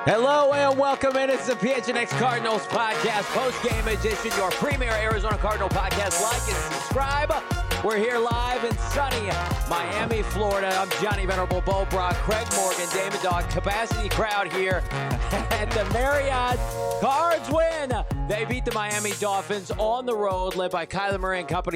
Hello and welcome in. It's the PHNX Cardinals podcast, post-game edition, your premier Arizona Cardinal podcast. Like and subscribe. We're here live in sunny Miami, Florida. I'm Johnny Venerable, Bo Brock, Craig Morgan, Damon Dog. Capacity crowd here at the Marriott. Cards win. They beat the Miami Dolphins on the road, led by Kyler Murray and company,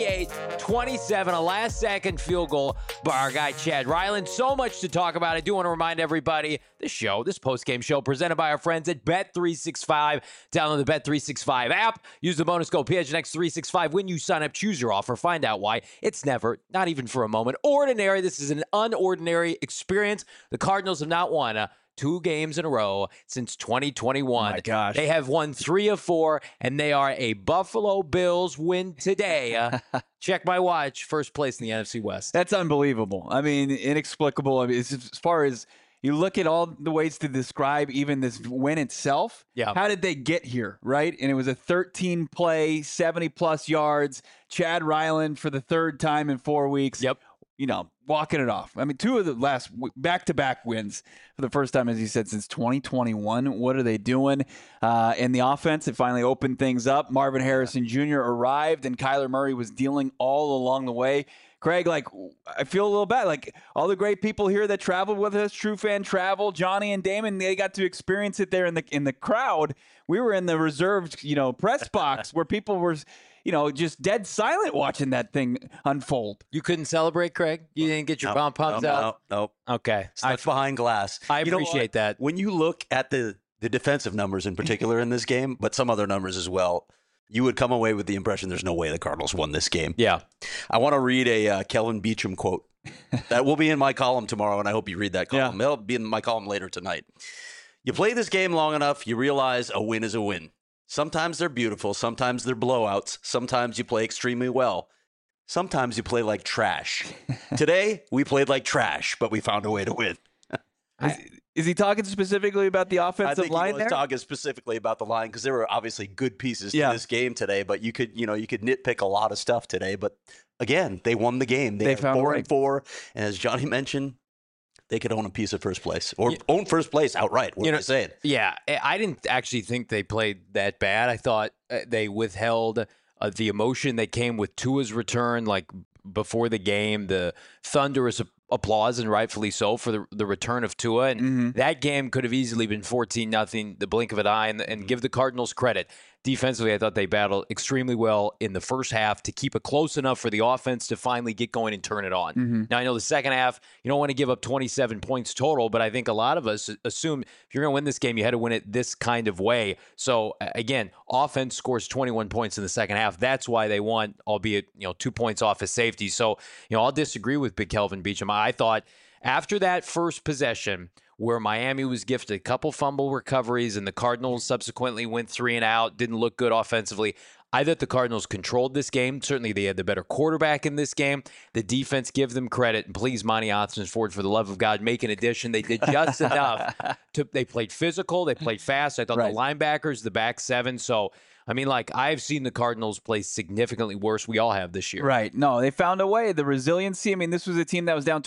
28-27. A last-second field goal by our guy Chad Ryland. So much to talk about. I do want to remind everybody, this post-game show, presented by our friends at Bet365. Download the Bet365 app. Use the bonus code PHNX365 when you sign up. Choose your offer. Find out why. It's never, not even for a moment, ordinary. This is an unordinary experience. The Cardinals have not won 2 games in a row since 2021. My gosh. They have won 3 of 4, and they are a Buffalo Bills win today. Check my watch. First place in the NFC West. That's unbelievable. I mean, inexplicable. I mean, as far as you look at all the ways to describe even this win itself, how did they get here, right? And it was a 13-play, 70-plus yards. Chad Ryland for the 3rd time in 4 weeks. Yep. You know, walking it off. I mean, 2 of the last back-to-back wins for the first time, as you said, since 2021. What are they doing? In the offense, it finally opened things up. Marvin Harrison Jr. arrived, and Kyler Murray was dealing all along the way. Craig, I feel a little bad. All the great people here that traveled with us, True Fan Travel, Johnny and Damon, they got to experience it there in the crowd. We were in the reserved, press box where people were, just dead silent watching that thing unfold. You couldn't celebrate, Craig? You didn't get your bomb pumps out? No. Okay. Stuck behind glass. I appreciate that. When you look at the defensive numbers in particular in this game, but some other numbers as well, you would come away with the impression there's no way the Cardinals won this game. Yeah. I want to read a Kelvin Beachum quote. That will be in my column tomorrow, and I hope you read that column. Yeah. It'll be in my column later tonight. You play this game long enough, you realize a win is a win. Sometimes they're beautiful. Sometimes they're blowouts. Sometimes you play extremely well. Sometimes you play like trash. Today, we played like trash, but we found a way to win. Is he talking specifically about the offensive line I think he was talking specifically about the line because there were obviously good pieces to this game today, but you could nitpick a lot of stuff today. But again, they won the game. They found 4-4, and as Johnny mentioned, they could own a piece of first place or own first place outright. What are you saying? Yeah, I didn't actually think they played that bad. I thought they withheld the emotion that came with Tua's return, before the game, the thunderous applause, and rightfully so, for the return of Tua. And that game could have easily been 14-0, the blink of an eye, and give the Cardinals credit. Defensively, I thought they battled extremely well in the first half to keep it close enough for the offense to finally get going and turn it on. Now, I know the second half, you don't want to give up 27 points total, but I think a lot of us assume if you're going to win this game, you had to win it this kind of way. So, again, offense scores 21 points in the second half. That's why they won, albeit 2 points off as safety. So, I'll disagree with Big Kelvin Beachum. I thought after that first possession, where Miami was gifted a couple fumble recoveries and the Cardinals subsequently went 3 and out, didn't look good offensively, I thought the Cardinals controlled this game. Certainly they had the better quarterback in this game. The defense, give them credit. And please, Monty Ossenford, for the love of God, make an addition. They did just enough. They played physical. They played fast. I thought the linebackers, the back 7. So, I've seen the Cardinals play significantly worse. We all have this year. Right. No, they found a way. The resiliency. This was a team that was down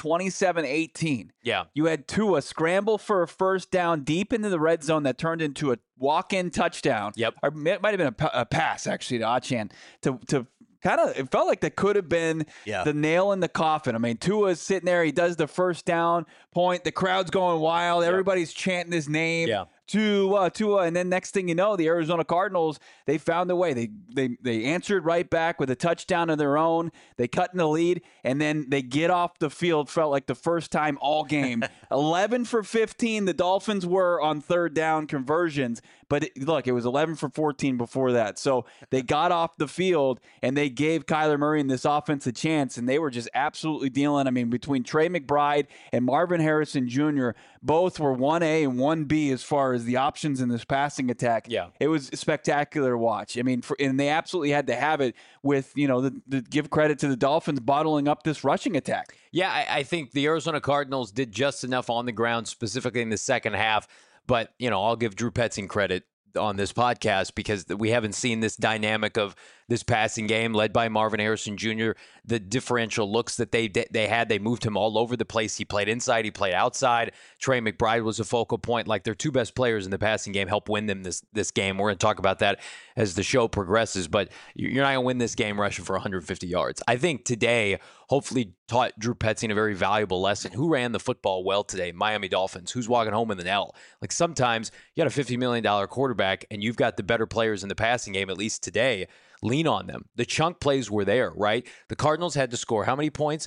27-18. Yeah. You had Tua scramble for a first down deep into the red zone that turned into a walk-in touchdown. Yep. Or it might have been a pass, actually, to Achane to kind of, it felt like that could have been the nail in the coffin. Tua's sitting there. He does the first down point. The crowd's going wild. Everybody's chanting his name. Yeah. Tua, and then next thing you know, the Arizona Cardinals, they found a way. They answered right back with a touchdown of their own. They cut in the lead, and then they get off the field. Felt like the first time all game. 11 for 15, the Dolphins were on third down conversions. But look, it was 11 for 14 before that. So they got off the field, and they gave Kyler Murray and this offense a chance, and they were just absolutely dealing. Between Trey McBride and Marvin Harrison Jr., both were 1A and 1B as far as the options in this passing attack. Yeah. It was spectacular to watch. And they absolutely had to have it with, the give credit to the Dolphins bottling up this rushing attack. Yeah, I think the Arizona Cardinals did just enough on the ground, specifically in the second half. But, I'll give Drew Petzing credit on this podcast because we haven't seen this dynamic of this passing game, led by Marvin Harrison Jr. The differential looks that they had, they moved him all over the place. He played inside, he played outside. Trey McBride was a focal point. Like, their two best players in the passing game helped win them this game. We're going to talk about that as the show progresses, but you're not going to win this game rushing for 150 yards. I think today hopefully taught Drew Petzing a very valuable lesson. Who ran the football well today? Miami Dolphins. Who's walking home with an L? Like, sometimes you got a $50 million quarterback and you've got the better players in the passing game, at least today. Lean on them. The chunk plays were there, right? The Cardinals had to score how many points?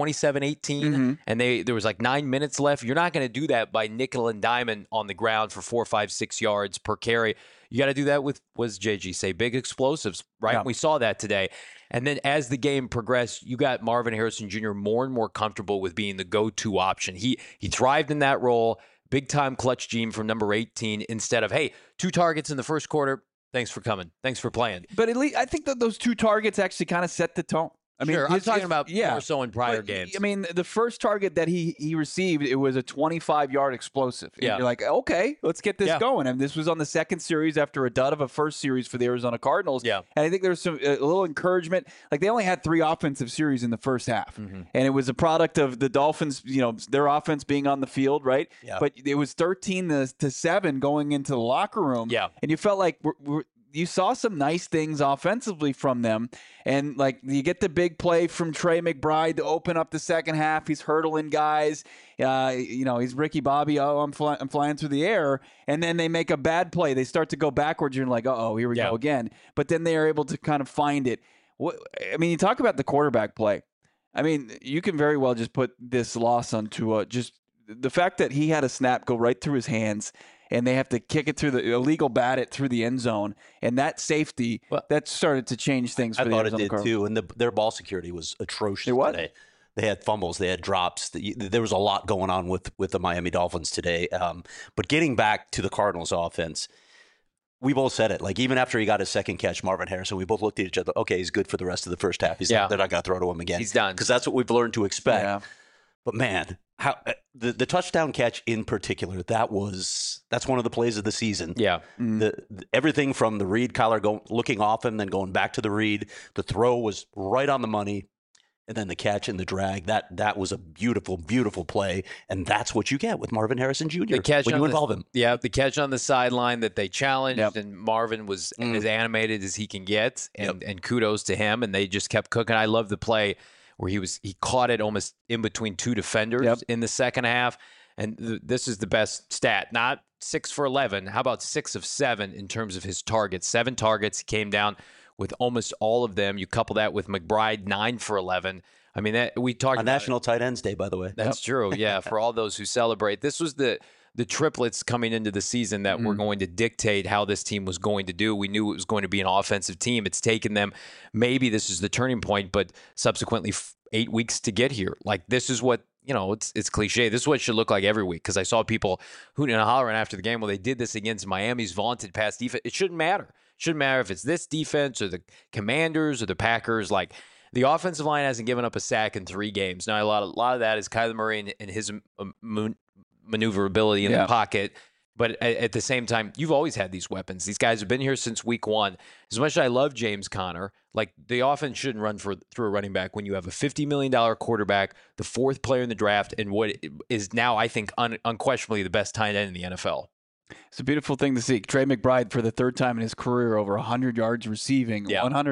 27-18, and there was like 9 minutes left. You're not going to do that by nickel and diamond on the ground for 4, 5, 6 yards per carry. You got to do that with, what does JG say, big explosives, right? Yeah. We saw that today. And then as the game progressed, you got Marvin Harrison Jr. more and more comfortable with being the go-to option. He thrived in that role, big-time clutch gene from number 18, instead of, hey, 2 targets in the first quarter, thanks for coming, thanks for playing. But at least I think that those 2 targets actually kind of set the tone. I mean, sure, I'm talking about more so in prior games. I mean, the first target that he received, it was a 25-yard explosive. And you're like, okay, let's get this going. And this was on the second series after a dud of a first series for the Arizona Cardinals. Yeah. And I think there's a little encouragement. Like, they only had 3 offensive series in the first half. And it was a product of the Dolphins, their offense being on the field, right? Yeah. But it was 13-7 going into the locker room. Yeah. And you felt like you saw some nice things offensively from them. And, like, you get the big play from Trey McBride to open up the second half. He's hurdling guys. He's Ricky Bobby. Oh, I'm flying through the air. And then they make a bad play. They start to go backwards. You're like, uh-oh, here we go again. But then they are able to kind of find it. You talk about the quarterback play. I mean, you can very well just put this loss onto just the fact that he had a snap go right through his hands, and they have to kick it through the illegal bat it through the end zone, and that safety that started to change things. For the Arizona Cardinals. I thought it did too, and their ball security was atrocious today. They had fumbles, they had drops. There was a lot going on with the Miami Dolphins today. But getting back to the Cardinals offense, we both said it. Like, even after he got his second catch, Marvin Harrison, we both looked at each other. Okay, he's good for the rest of the first half. They're not going to throw to him again. He's done, because that's what we've learned to expect. Yeah. But man, how the touchdown catch in particular, that's one of the plays of the season. Yeah. Everything from the read, Kyler looking off him, then going back to the read. The throw was right on the money. And then the catch and the drag, that was a beautiful, beautiful play. And that's what you get with Marvin Harrison Jr. when you involve him. Yeah, the catch on the sideline that they challenged, and Marvin was as animated as he can get. And kudos to him. And they just kept cooking. I love the play where he caught it almost in between 2 defenders in the second half. And this is the best stat, not 6 for 11. How about 6 of 7 in terms of his targets? 7 targets. He came down with almost all of them. You couple that with McBride, 9 for 11. I mean, we talked about National Tight Ends Day, by the way. That's true. Yeah, for all those who celebrate. This was the triplets coming into the season that were going to dictate how this team was going to do. We knew it was going to be an offensive team. It's taken them, maybe this is the turning point, but subsequently 8 weeks to get here. Like, this is what, it's cliche. This is what it should look like every week, because I saw people hooting and hollering after the game. Well, they did this against Miami's vaunted pass defense. It shouldn't matter. It shouldn't matter if it's this defense or the Commanders or the Packers. Like, the offensive line hasn't given up a sack in 3 games. Now, a lot of that is Kyler Murray and his maneuverability in the pocket. But at the same time, you've always had these weapons. These guys have been here since week 1. As much as I love James Conner, like, the offense shouldn't run through a running back when you have a $50 million quarterback, the 4th player in the draft, and what is now, I think, unquestionably the best tight end in the NFL. It's a beautiful thing to see. Trey McBride, for the 3rd time in his career, over 100 yards receiving,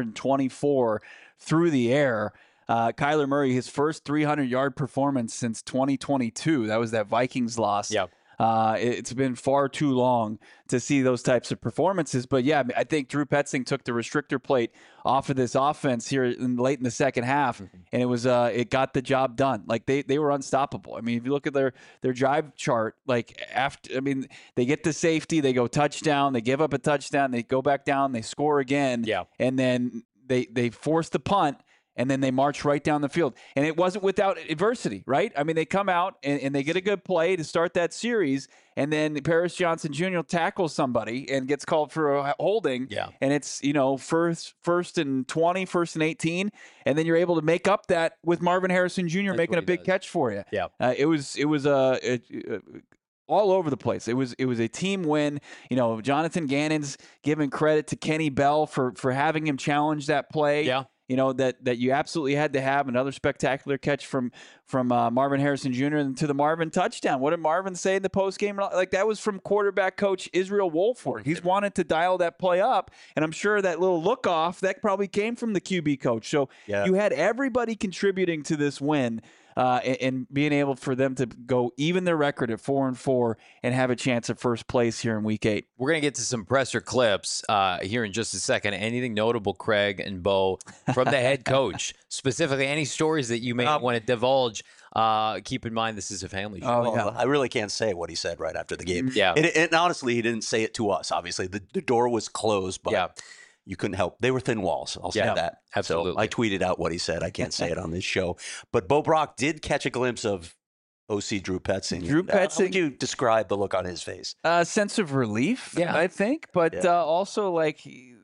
124 through the air. Kyler Murray, his first 300-yard performance since 2022. That was that Vikings loss. Yeah. It's been far too long to see those types of performances. But, yeah, I think Drew Petzing took the restrictor plate off of this offense here late in the second half, and it got the job done. Like, they were unstoppable. I mean, if you look at their drive chart, like, they get the safety, they go touchdown, they give up a touchdown, they go back down, they score again, and then they force the punt, and then they march right down the field. And it wasn't without adversity, right? I mean, they come out and they get a good play to start that series, and then Paris Johnson Jr. tackles somebody and gets called for a holding. Yeah. And it's, first and 20, first and 18, and then you're able to make up that with Marvin Harrison Jr. making a big catch for you. Yeah. It was all over the place. It was a team win. You know, Jonathan Gannon's giving credit to Kenny Bell for having him challenge that play. Yeah. You know, that you absolutely had to have. Another spectacular catch from Marvin Harrison Jr. and to the Marvin touchdown. What did Marvin say in the postgame? Like, that was from quarterback coach Israel Wolford. He's wanted to dial that play up, and I'm sure that little look off, that probably came from the QB coach. So you had everybody contributing to this win. And being able for them to go even their record at 4-4 and have a chance at first place here in Week 8. We're going to get to some presser clips here in just a second. Anything notable, Craig and Bo, from the head coach? Specifically, any stories that you may want to divulge? Keep in mind, this is a family show. Well, I really can't say what he said right after the game. Yeah. And honestly, he didn't say it to us. Obviously, the door was closed, but you couldn't help. They were thin walls. I'll say that. Absolutely. So I tweeted out what he said. I can't say it on this show. But Bo Brock did catch a glimpse of OC Drew Petzing. Drew Petzing. How would you describe the look on his face? A sense of relief, I think, but also like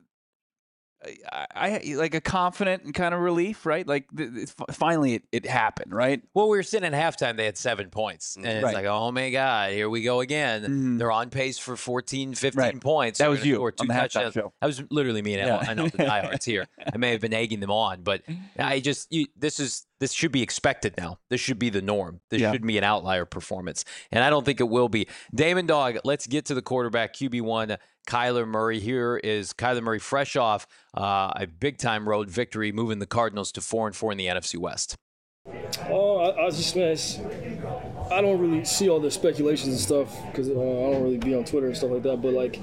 I like a confident and kind of relief, right? Like finally it happened, right? Well, we were sitting at halftime. They had 7 points. And it's like, oh, my God, here we go again. Mm-hmm. They're on pace for 14, 15 points. That They're was gonna you score on the halftime show. That was literally me. And I know the diehards here. I may have been egging them on, but this should be expected now. This should be the norm. This should be an outlier performance. And I don't think it will be. Damon Dog, let's get to the quarterback, QB1, Kyler Murray. Here is Kyler Murray fresh off a big-time road victory, moving the Cardinals to 4-4 in the NFC West. I don't really see all the speculations and stuff because I don't really be on Twitter and stuff like that. But like,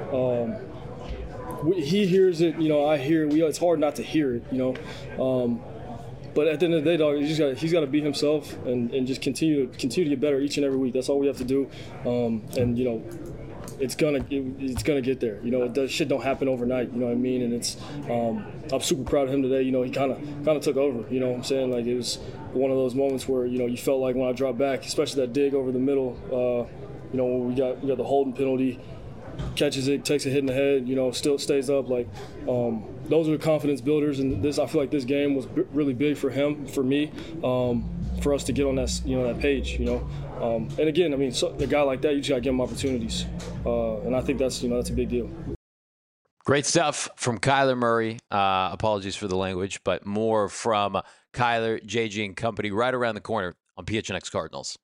he hears it, you know. I hear it. It's hard not to hear it, you know. But at the end of the day, dog, he's got to be himself and just continue to get better each and every week. That's all we have to do. And you know, it's gonna get there. You know, shit don't happen overnight. You know what I mean? And it's I'm super proud of him today. You know, he kind of took over. You know what I'm saying? Like, it was one of those moments where, you know, you felt like when I dropped back, especially that dig over the middle. You know, when we got the holding penalty, catches it, takes a hit in the head. You know, still stays up. Like, those are confidence builders. And I feel like this game was really big for him, for me, for us to get on that, you know, that page. You know. And again, I mean, a guy like that, you just got to give him opportunities. And I think that's a big deal. Great stuff from Kyler Murray. Apologies for the language, but more from Kyler, JG, and company right around the corner on PHNX Cardinals.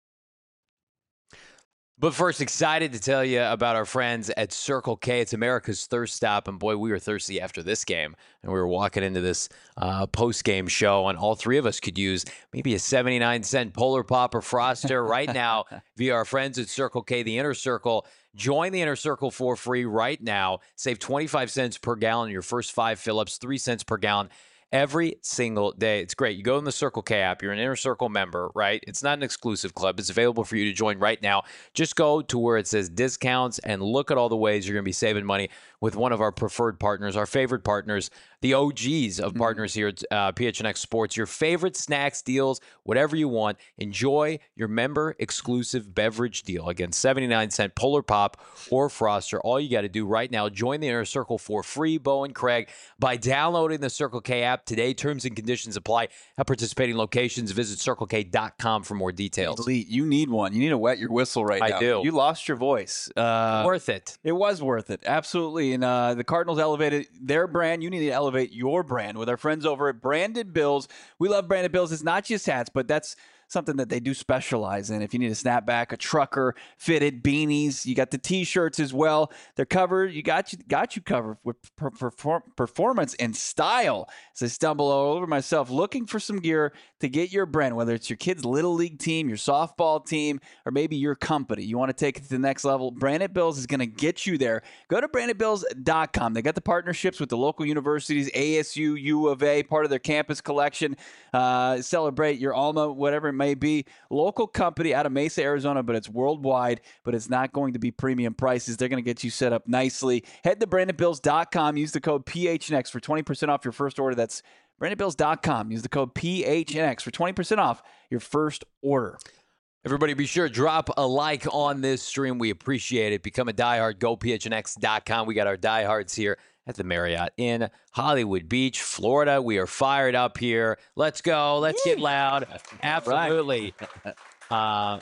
But first, excited to tell you about our friends at Circle K. It's America's thirst stop, and boy, we were thirsty after this game. And we were walking into this post-game show, and all three of us could use maybe a 79-cent Polar Pop or Froster right now via our friends at Circle K, the Inner Circle. Join the Inner Circle for free right now. Save 25 cents per gallon in your first 5 fill-ups, 3 cents per gallon every single day. It's great. You go in the Circle K app. You're an Inner Circle member, right? It's not an exclusive club. It's available for you to join right now. Just go to where it says discounts and look at all the ways you're going to be saving money with one of our preferred partners, our favorite partners, the OGs of partners here at PHNX Sports. Your favorite snacks, deals, whatever you want. Enjoy your member-exclusive beverage deal. Again, 79-cent Polar Pop or Froster. All you got to do right now, join the Inner Circle for free, Bo and Craig, by downloading the Circle K app today. Terms and conditions apply at participating locations. Visit CircleK.com for more details. Elite, you need one. You need to wet your whistle right now. I do. You lost your voice. Worth it. It was worth it. Absolutely. And the Cardinals elevated their brand. You need to elevate your brand with our friends over at Branded Bills. We love Branded Bills. It's not just hats, but that's something that they do specialize in. If you need a snapback, a trucker, fitted beanies, you got the T-shirts as well. They're covered. You got you covered with performance and style. As I stumble all over myself looking for some gear to get your brand, whether it's your kid's little league team, your softball team, or maybe your company. You want to take it to the next level. Branded Bills is going to get you there. Go to brandedbills.com. They got the partnerships with the local universities, ASU, U of A, part of their campus collection. Celebrate your alma, whatever it may be. Local company out of Mesa, Arizona, but it's worldwide, but it's not going to be premium prices. They're going to get you set up nicely. Head to brandedbills.com. Use the code PHNX for 20% off your first order. That's brandedbills.com. Use the code PHNX for 20% off your first order. Everybody be sure to drop a like on this stream. We appreciate it. Become a diehard. Go PHNX.com. We got our diehards here at the Marriott in Hollywood Beach, Florida. We are fired up here. Let's go. Let's get loud. Absolutely.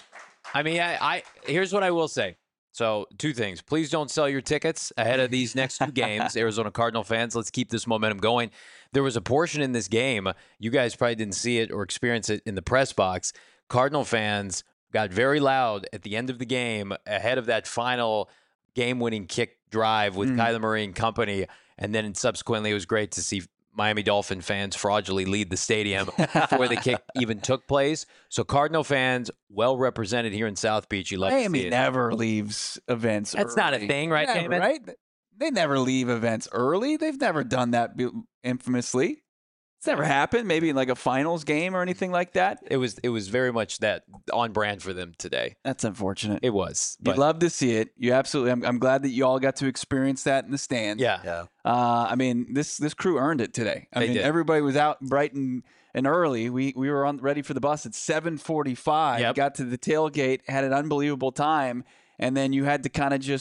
I mean, I here's what I will say. So, two things. Please don't sell your tickets ahead of these next two games. Arizona Cardinal fans, let's keep this momentum going. There was a portion in this game, you guys probably didn't see it or experience it in the press box. Cardinal fans got very loud at the end of the game ahead of that final game-winning kick drive with Kyler Murray and company. And then subsequently, it was great to see Miami Dolphin fans fraudulently lead the stadium before the kick even took place. So Cardinal fans, well represented here in South Beach. You love to Miami see it. never leaves events That's not a early. thing, right, Never, Damon? right? They never leave events early. They've never done that infamously. It's never happened. Maybe in like a finals game or anything like that. It was very much that on brand for them today. That's unfortunate. It was. You'd But love to see it. You absolutely. I'm glad that you all got to experience that in the stands. yeah. Yeah. I mean, this crew earned it today. I They mean, did. everybody was out bright and early. We were ready for the bus at 7:45. Yep. Got to the tailgate, had an unbelievable time, and then you had to kind of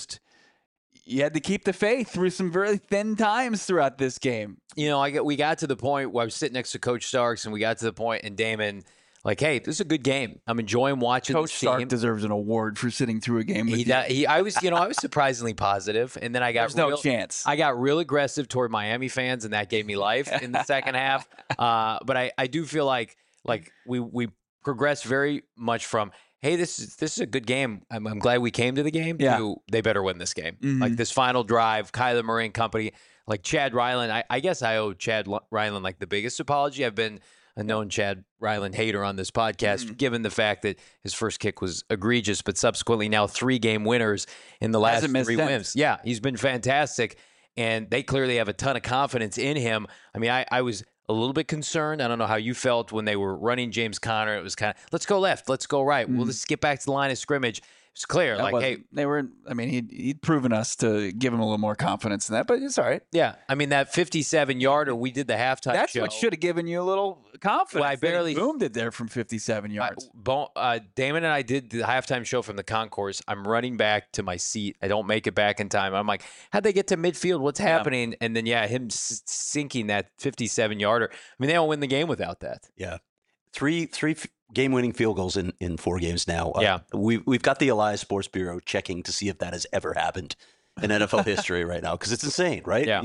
you had to keep the faith through some very thin times throughout this game. You know, we got to the point where I was sitting next to Coach Starks, and we got to the point, and Damon, like, hey, this is a good game. I'm enjoying watching Coach this Stark team. deserves an award for sitting through a game with you. I was surprisingly positive, and then I got There's no chance. I got real aggressive toward Miami fans, and that gave me life in the second half. But I do feel like we progressed very much from, hey, this is a good game. I'm glad we came to the game. Yeah. To they better win this game. Mhm. Like this final drive, Kyler Murray and company, like Chad Ryland. I guess I owe Chad Ryland like the biggest apology. I've been a known Chad Ryland hater on this podcast, given the fact that his first kick was egregious, but subsequently now 3-game winners in the last Hasn't missed 3 since. wins. Yeah, he's been fantastic, and they clearly have a ton of confidence in him. I mean, I was a little bit concerned. I don't know how you felt when they were running James Conner. It was kind of, let's go left, let's go right. Well, let's get back to the line of scrimmage. It's clear, That like, hey, wasn't- they were. I mean, he'd proven us to give him a little more confidence in that, but it's all right. yeah. I mean, that 57-yarder, we did the halftime That's show. what should have given you a little confidence. Well, I that he barely- boomed it there from 57 yards. Damon and I did the halftime show from the concourse. I'm running back to my seat. I don't make it back in time. I'm like, how'd they get to midfield? What's happening? And then, him sinking that 57-yarder. I mean, they don't win the game without that. Yeah. Three game-winning field goals in 4 games now. Yeah. We've got the Elias Sports Bureau checking to see if that has ever happened in NFL history right now, because it's insane, right? Yeah.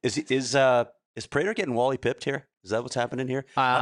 Is Prater getting Wally pipped here? Is that what's happening here?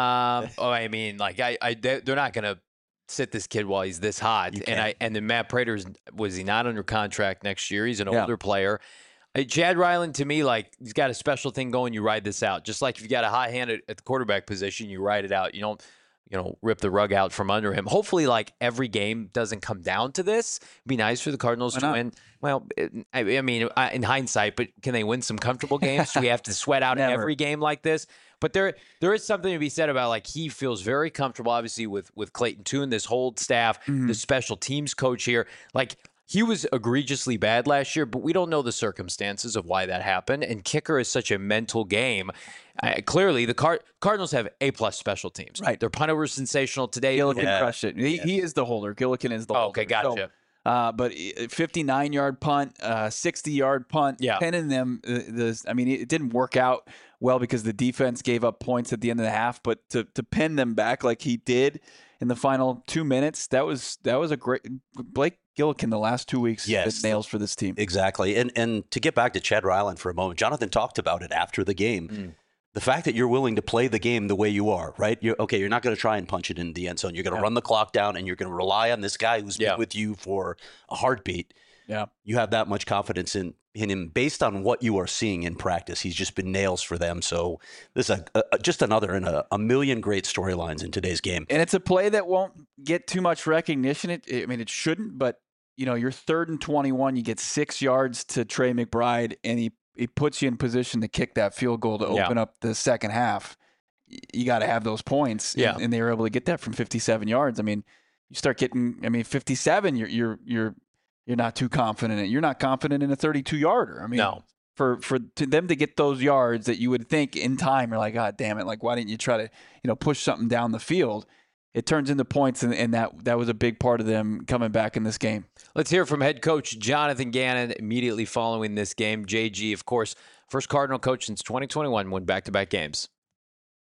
I mean, like, they're not gonna sit this kid while he's this hot. You And then Matt Prater, was he not under contract next year? He's an Yeah. older player. Chad Ryland, to me, like, he's got a special thing going. You ride this out, just like if you got a hot hand at the quarterback position, you ride it out. You don't, rip the rug out from under him. Hopefully, like, every game doesn't come down to this. It'd be nice for the Cardinals Why to not? win. Well, I mean, in hindsight, but can they win some comfortable games? Do we have to sweat out Never. every game like this? But there is something to be said about, like, he feels very comfortable, obviously, with Clayton Tune, this whole staff, the special teams coach here. Like, he was egregiously bad last year, but we don't know the circumstances of why that happened. And kicker is such a mental game. Clearly, the Cardinals have A-plus special teams. Right. Their punter was sensational today. Gillikin Yeah. crushed it. He is the holder. Gillikin is the Oh, holder. okay, gotcha. But 59-yard punt, 60-yard punt, Yeah. pinning them. I mean, it didn't work out well because the defense gave up points at the end of the half. But to pin them back like he did in the final 2 minutes, that was a great. Blake Gillikin the last 2 weeks Yes. has been nails for this team. Exactly. And to get back to Chad Ryland for a moment, Jonathan talked about it after the game. The fact that you're willing to play the game the way you are, right? You're not going to try and punch it in the end zone. You're going to run the clock down, and you're going to rely on this guy who's been with you for a heartbeat. Yeah. You have that much confidence in him based on what you are seeing in practice. He's just been nails for them. So this is just another in a million great storylines in today's game. And it's a play that won't get too much recognition. It shouldn't, but you're 3rd and 21. You get 6 yards to Trey McBride, and he puts you in position to kick that field goal to open up the second half. You got to have those points. Yeah. And they were able to get that from 57 yards. I mean, you start getting, 57, you're not too confident in it. You're not confident in a 32-yarder. I mean, No. For them to get those yards that you would think in time, you're like, God damn it! Like, why didn't you try to push something down the field? It turns into points, and that was a big part of them coming back in this game. Let's hear from head coach Jonathan Gannon immediately following this game. JG, of course, first Cardinal coach since 2021, won back-to-back games.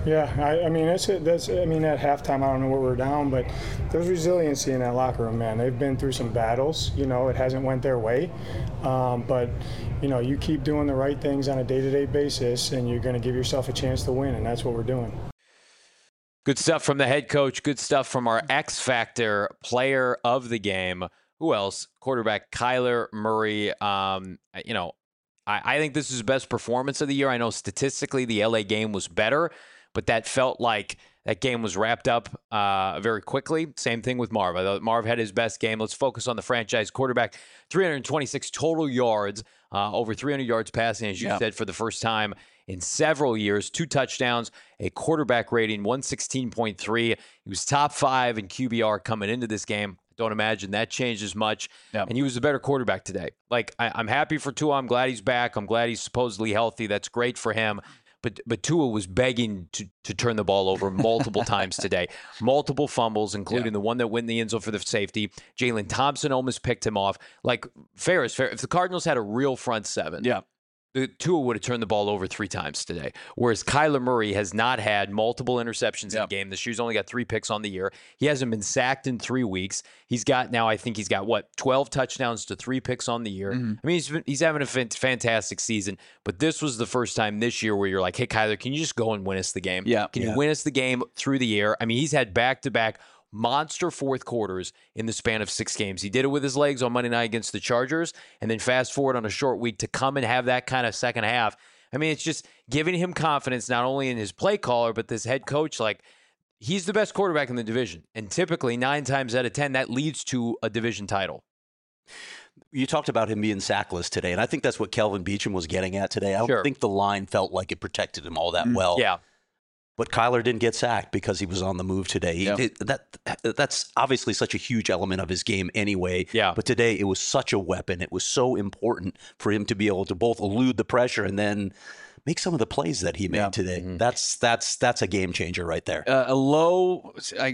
Yeah, I mean, at halftime, I don't know where we're down, but there's resiliency in that locker room, man. They've been through some battles. It hasn't went their way, but you keep doing the right things on a day-to-day basis, and you're going to give yourself a chance to win, and that's what we're doing. Good stuff from the head coach. Good stuff from our X Factor player of the game. Who else? Quarterback Kyler Murray. I think this is the best performance of the year. I know statistically the LA game was better, but that felt like that game was wrapped up very quickly. Same thing with Marv. I thought Marv had his best game. Let's focus on the franchise quarterback. 326 total yards, over 300 yards passing, as you said, for the first time in several years. 2 touchdowns, a quarterback rating, 116.3. He was top 5 in QBR coming into this game. Don't imagine that changes much. And he was a better quarterback today. I'm happy for Tua. I'm glad he's back. I'm glad he's supposedly healthy. That's great for him. But Tua was begging to turn the ball over multiple times today. Multiple fumbles, including the one that went in the end zone for the safety. Jalen Thompson almost picked him off. Fair is fair. If the Cardinals had a real front seven, the Tua would have turned the ball over 3 times today. Whereas Kyler Murray has not had multiple interceptions in the game. This year's only got 3 picks on the year. He hasn't been sacked in 3 weeks. He's got 12 touchdowns to 3 picks on the year. I mean, he's having a fantastic season. But this was the first time this year where you're like, hey, Kyler, can you just go and win us the game? Can you win us the game through the air? I mean, he's had back-to-back monster fourth quarters in the span of 6 games. He did it with his legs on Monday night against the Chargers, and then fast forward on a short week to come and have that kind of second half. I mean, it's just giving him confidence not only in his play caller, but this head coach. He's the best quarterback in the division, and typically 9 times out of 10, that leads to a division title. You talked about him being sackless today, and I think that's what Kelvin Beachum was getting at today. I don't think the line felt like it protected him all that well. But Kyler didn't get sacked because he was on the move today. That's obviously such a huge element of his game anyway. But today it was such a weapon. It was so important for him to be able to both elude the pressure and then make some of the plays that he made today. That's a game changer right there. A low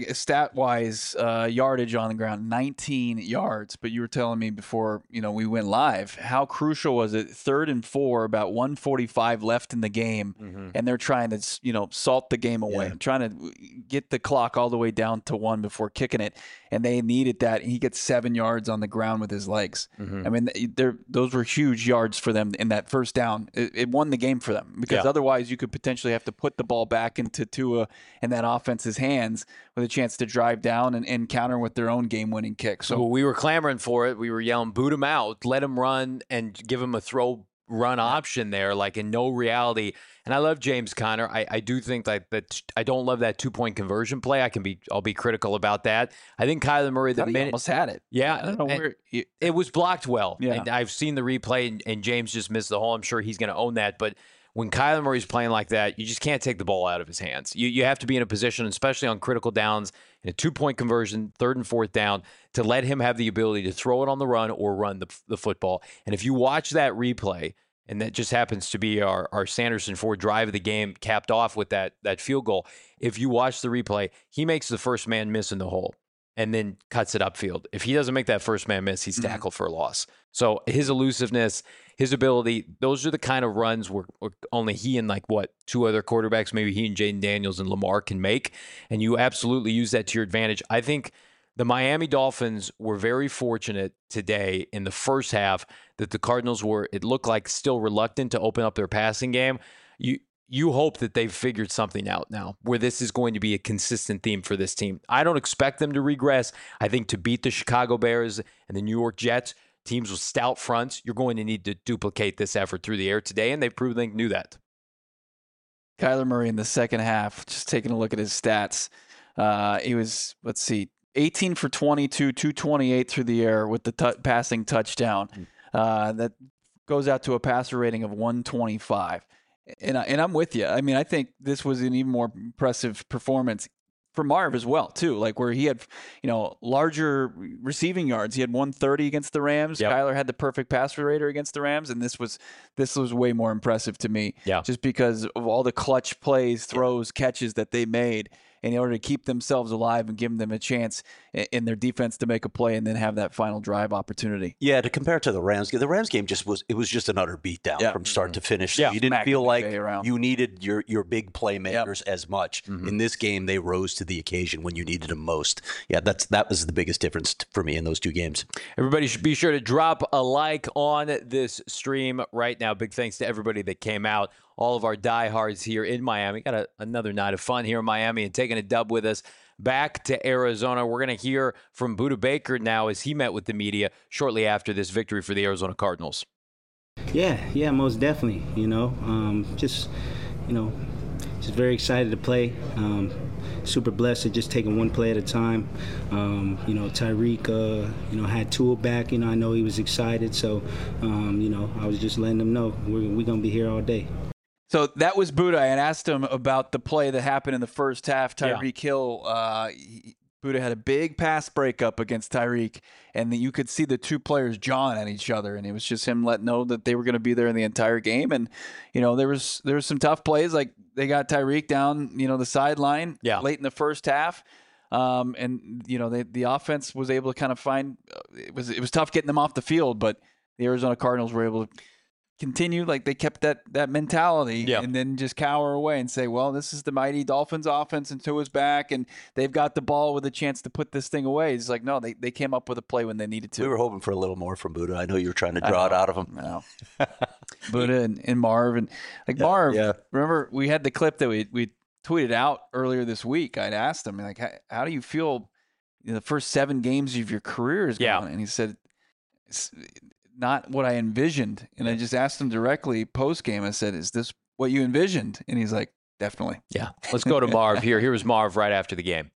stat-wise yardage on the ground, 19 yards. But you were telling me before we went live, how crucial was it? 3rd and 4, about 1:45 left in the game, and they're trying to salt the game away, trying to get the clock all the way down to 1 before kicking it. And they needed that. And he gets 7 yards on the ground with his legs. I mean, those were huge yards for them in that first down. It won the game for them. Because otherwise you could potentially have to put the ball back into Tua and that offense's hands with a chance to drive down and counter with their own game-winning kick. So we were clamoring for it. We were yelling, boot him out, let him run, and give him a throw-run option there, in no reality. And I love James Conner. I do think that I don't love that 2-point conversion play. I'll be critical about that. I think Kyler Murray, the minute almost had it. Yeah, I don't know where it was blocked well. And I've seen the replay, and James just missed the hole. I'm sure he's going to own that, but when Kyler Murray's playing like that, you just can't take the ball out of his hands. You have to be in a position, especially on critical downs, in a 2-point conversion, 3rd and 4th down, to let him have the ability to throw it on the run or run the football. And if you watch that replay, and that just happens to be our Sanderson Ford drive of the game capped off with that field goal, if you watch the replay, he makes the first man miss in the hole and then cuts it upfield. If he doesn't make that first man miss, he's tackled for a loss. So his elusiveness, his ability, those are the kind of runs where only he and 2 other quarterbacks, maybe he and Jaden Daniels and Lamar can make. And you absolutely use that to your advantage. I think the Miami Dolphins were very fortunate today in the first half that the Cardinals were, it looked like, still reluctant to open up their passing game. You hope that they've figured something out now where this is going to be a consistent theme for this team. I don't expect them to regress. I think to beat the Chicago Bears and the New York Jets, teams with stout fronts, you're going to need to duplicate this effort through the air today, and they've proven they knew that. Kyler Murray in the second half, just taking a look at his stats, he was, 18 for 22, 228 through the air with the passing touchdown. That goes out to a passer rating of 125. And I'm with you. I mean, I think this was an even more impressive performance for Marv as well, too, where he had, larger receiving yards. He had 130 against the Rams. Kyler had the perfect passer rater against the Rams, and this was way more impressive to me. Just because of all the clutch plays, throws, catches that they made in order to keep themselves alive and give them a chance in their defense to make a play and then have that final drive opportunity. Yeah, to compare it to the Rams game, the Rams game was just an utter beatdown from start to finish. So you didn't feel like you needed your big playmakers as much. In this game, they rose to the occasion when you needed them most. Yeah, that was the biggest difference for me in those two games. Everybody should be sure to drop a like on this stream right now. Big thanks to everybody that came out. All of our diehards here in Miami. Got another night of fun here in Miami and taking a dub with us back to Arizona. We're going to hear from Budda Baker now as he met with the media shortly after this victory for the Arizona Cardinals. Yeah, most definitely. Just very excited to play. Super blessed to just taking one play at a time. Tyreek, had Tua back. I know he was excited. So, I was just letting him know we're going to be here all day. So that was Budda. I had asked him about the play that happened in the first half. Tyreek Hill, Budda had a big pass breakup against Tyreek, and you could see the two players jawing at each other, and it was just him letting know that they were going to be there in the entire game. And there was some tough plays, like they got Tyreek down, the sideline late in the first half. The offense was able to kind of find it was tough getting them off the field, but the Arizona Cardinals were able to continue, like they kept that mentality and then just cower away and say, well, this is the mighty Dolphins offense and Tua's back and they've got the ball with a chance to put this thing away. It's like, no, they came up with a play when they needed to. We were hoping for a little more from Budda. I know you were trying to draw it out of him. No. Budda and Marv. And Marv, remember we had the clip that we tweeted out earlier this week. I'd asked him, like, how do you feel the first 7 games of your career is going? And he said, it's not what I envisioned. And I just asked him directly post game. I said, is this what you envisioned? And he's like, definitely. Yeah. Let's go to Marv here. Here was Marv right after the game.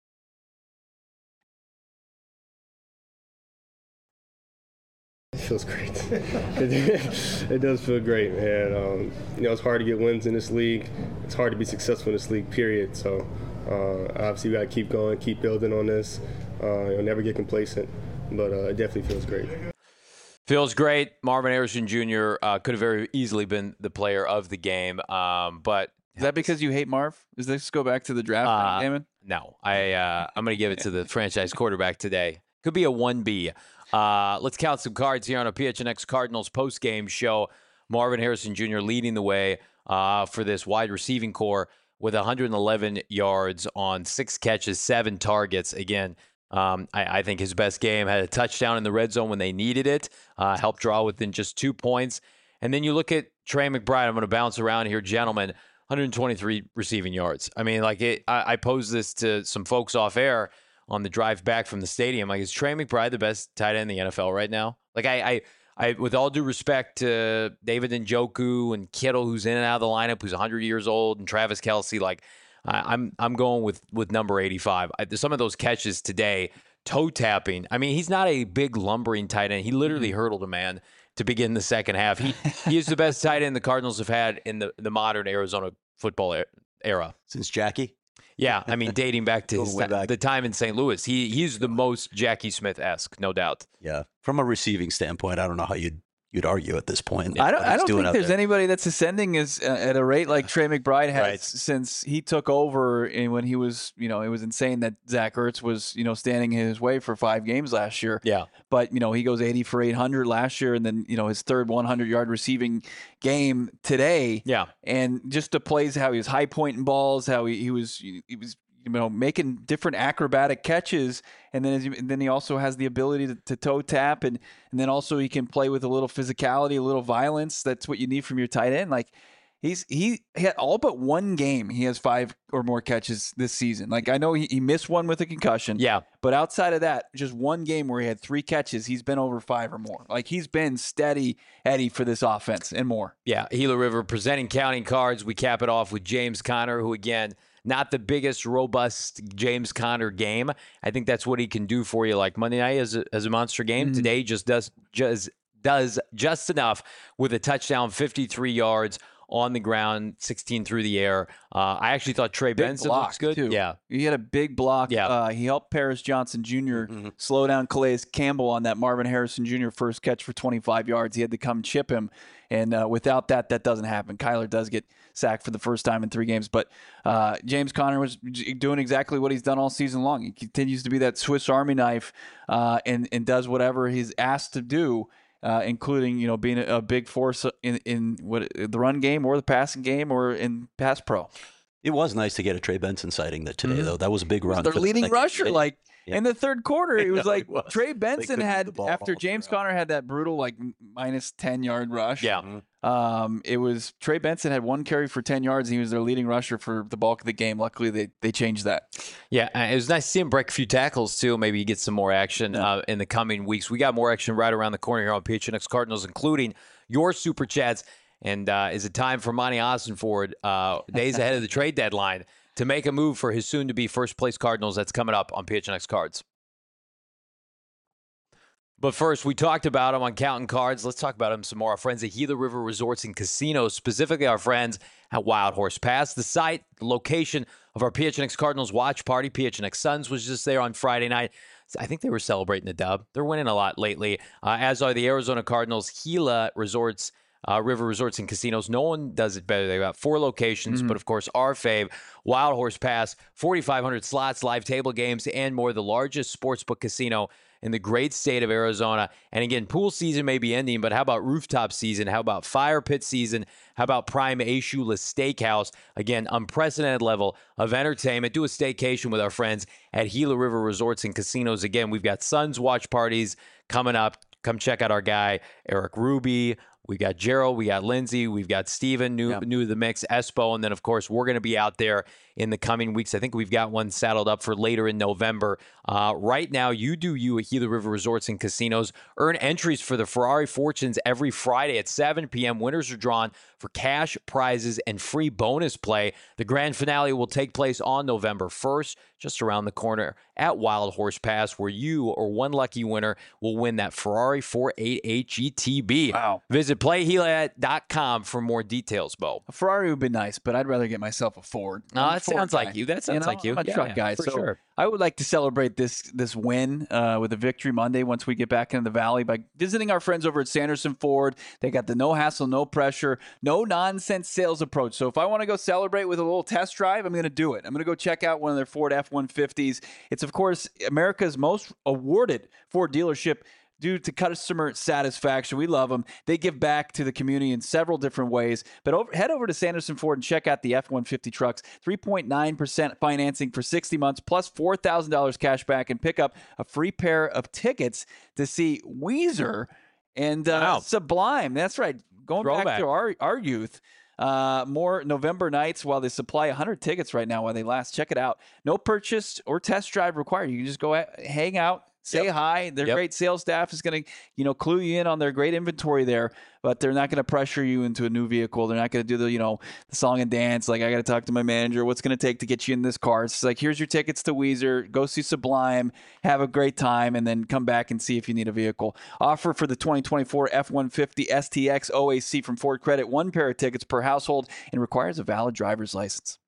It feels great. It does feel great, man. It's hard to get wins in this league. It's hard to be successful in this league, period. So obviously we got to keep going, keep building on this. Never get complacent, but it definitely feels great. Feels great. Marvin Harrison Jr. Could have very easily been the player of the game, but is that because you hate Marv? Does this go back to the draft, Damon? No, I'm going to give it to the franchise quarterback today. Could be a 1B. Let's count some cards here on a PHNX Cardinals post-game show. Marvin Harrison Jr. leading the way for this wide receiving core with 111 yards on 6 catches, 7 targets. Again, I think his best game. Had a touchdown in the red zone when they needed it. Helped draw within just 2 points. And then you look at Trey McBride. I'm going to bounce around here, gentlemen. 123 receiving yards. I mean, I posed this to some folks off air on the drive back from the stadium. Like, is Trey McBride the best tight end in the NFL right now? Like, I with all due respect to David Njoku and Kittle, who's in and out of the lineup, who's 100 years old, and Travis Kelce, like, I'm going with number 85. Some of those catches today, toe tapping. I mean, he's not a big lumbering tight end. He literally hurdled a man to begin the second half. He is the best tight end the Cardinals have had in the modern Arizona football era since Jackie. Yeah, I mean, dating back to the time in St. Louis, he's the most Jackie Smith-esque, no doubt. Yeah, from a receiving standpoint, I don't know how you'd argue at this point. I don't think there's anybody that's ascending at a rate like Trey McBride has since he took over. And when he was, it was insane that Zach Ertz was, standing in his way for 5 games last year. Yeah. But, he goes 80 for 800 last year, and then, his third 100-yard receiving game today. Yeah. And just the plays, how he was high pointing balls, how he was making different acrobatic catches, and then he also has the ability to toe tap, and then also he can play with a little physicality, a little violence. That's what you need from your tight end. Like he had all but one game. He has 5 or more catches this season. Like, I know he missed one with a concussion. Yeah, but outside of that, just one game where he had 3 catches, he's been over 5 or more. Like, he's been steady Eddie for this offense and more. Yeah, Gila River presenting counting cards. We cap it off with James Conner, who again, not the biggest, robust James Conner game. I think that's what he can do for you. Like Monday night as a monster game. Mm-hmm. Today just does just enough with a touchdown, 53 yards on the ground, 16 through the air. I actually thought Trey Benson looks good. Too. Yeah. He had a big block. Yeah. He helped Paris Johnson Jr. slow down Calais Campbell on that Marvin Harrison Jr. first catch for 25 yards. He had to come chip him. And without that doesn't happen. Kyler does get sacked for the first time in 3 games. But James Conner was doing exactly what he's done all season long. He continues to be that Swiss Army knife and does whatever he's asked to do, including being a big force in the run game or the passing game or in pass pro. It was nice to get a Trey Benson sighting today, though. That was a big run. Their leading rusher, in the third quarter, it was like Trey Benson had, after James Conner had that brutal minus 10-yard rush. Yeah. It was Trey Benson had 1 carry for 10 yards, and he was their leading rusher for the bulk of the game. Luckily, they changed that. Yeah, it was nice to see him break a few tackles, too. Maybe get some more action in the coming weeks. We got more action right around the corner here on PHNX Cardinals, including your Super Chats. And is it time for Monty Ossenford, days ahead of the trade deadline, to make a move for his soon-to-be first-place Cardinals? That's coming up on PHNX Cards. But first, we talked about him on Counting Cards. Let's talk about him some more. Our friends at Gila River Resorts and Casinos, specifically our friends at Wild Horse Pass. The site, the location of our PHNX Cardinals watch party. PHNX Suns was just there on Friday night. I think they were celebrating the dub. They're winning a lot lately, as are the Arizona Cardinals. Gila Resorts, River Resorts and Casinos. No one does it better. They've got 4 locations, but of course, our fave, Wild Horse Pass, 4,500 slots, live table games, and more. The largest sportsbook casino in the great state of Arizona. And again, pool season may be ending, but how about rooftop season? How about fire pit season? How about Prime Ashula Steakhouse? Again, unprecedented level of entertainment. Do a staycation with our friends at Gila River Resorts and Casinos. Again, we've got Suns watch parties coming up. Come check out our guy, Eric Ruby. We got Gerald, we got Lindsay, we've got Steven, new to the mix, Espo, and then, of course, we're going to be out there in the coming weeks. I think we've got one saddled up for later in November. Right now, you do you at Gila River Resorts and Casinos. Earn entries for the Ferrari Fortunes every Friday at 7 p.m. Winners are drawn for cash, prizes, and free bonus play. The grand finale will take place on November 1st, just around the corner at Wild Horse Pass, where you or one lucky winner will win that Ferrari 488 GTB. Wow. Visit playhila.com for more details, Bo. A Ferrari would be nice, but I'd rather get myself a Ford. That sounds like you. That sounds like you. I'm a truck guy. For so sure. I would like to celebrate this win with a victory Monday once we get back into the Valley by visiting our friends over at Sanderson Ford. They got the no hassle, no pressure, no nonsense sales approach. So if I want to go celebrate with a little test drive, I'm going to do it. I'm going to go check out one of their Ford F-150s. It's, of course, America's most awarded Ford dealership due to customer satisfaction. We love them. They give back to the community in several different ways. But head over to Sanderson Ford and check out the F-150 trucks. 3.9% financing for 60 months plus $4,000 cash back, and pick up a free pair of tickets to see Weezer and Sublime. That's right. Going back to our youth. More November nights while they supply 100 tickets right now while they last. Check it out. No purchase or test drive required. You can just go hang out, say hi. Their great sales staff is going to, clue you in on their great inventory there, but they're not going to pressure you into a new vehicle. They're not going to do the song and dance. Like, I got to talk to my manager. What's going to take to get you in this car? It's like, here's your tickets to Weezer. Go see Sublime. Have a great time, and then come back and see if you need a vehicle. Offer for the 2024 F-150 STX OAC from Ford Credit. 1 pair of tickets per household and requires a valid driver's license.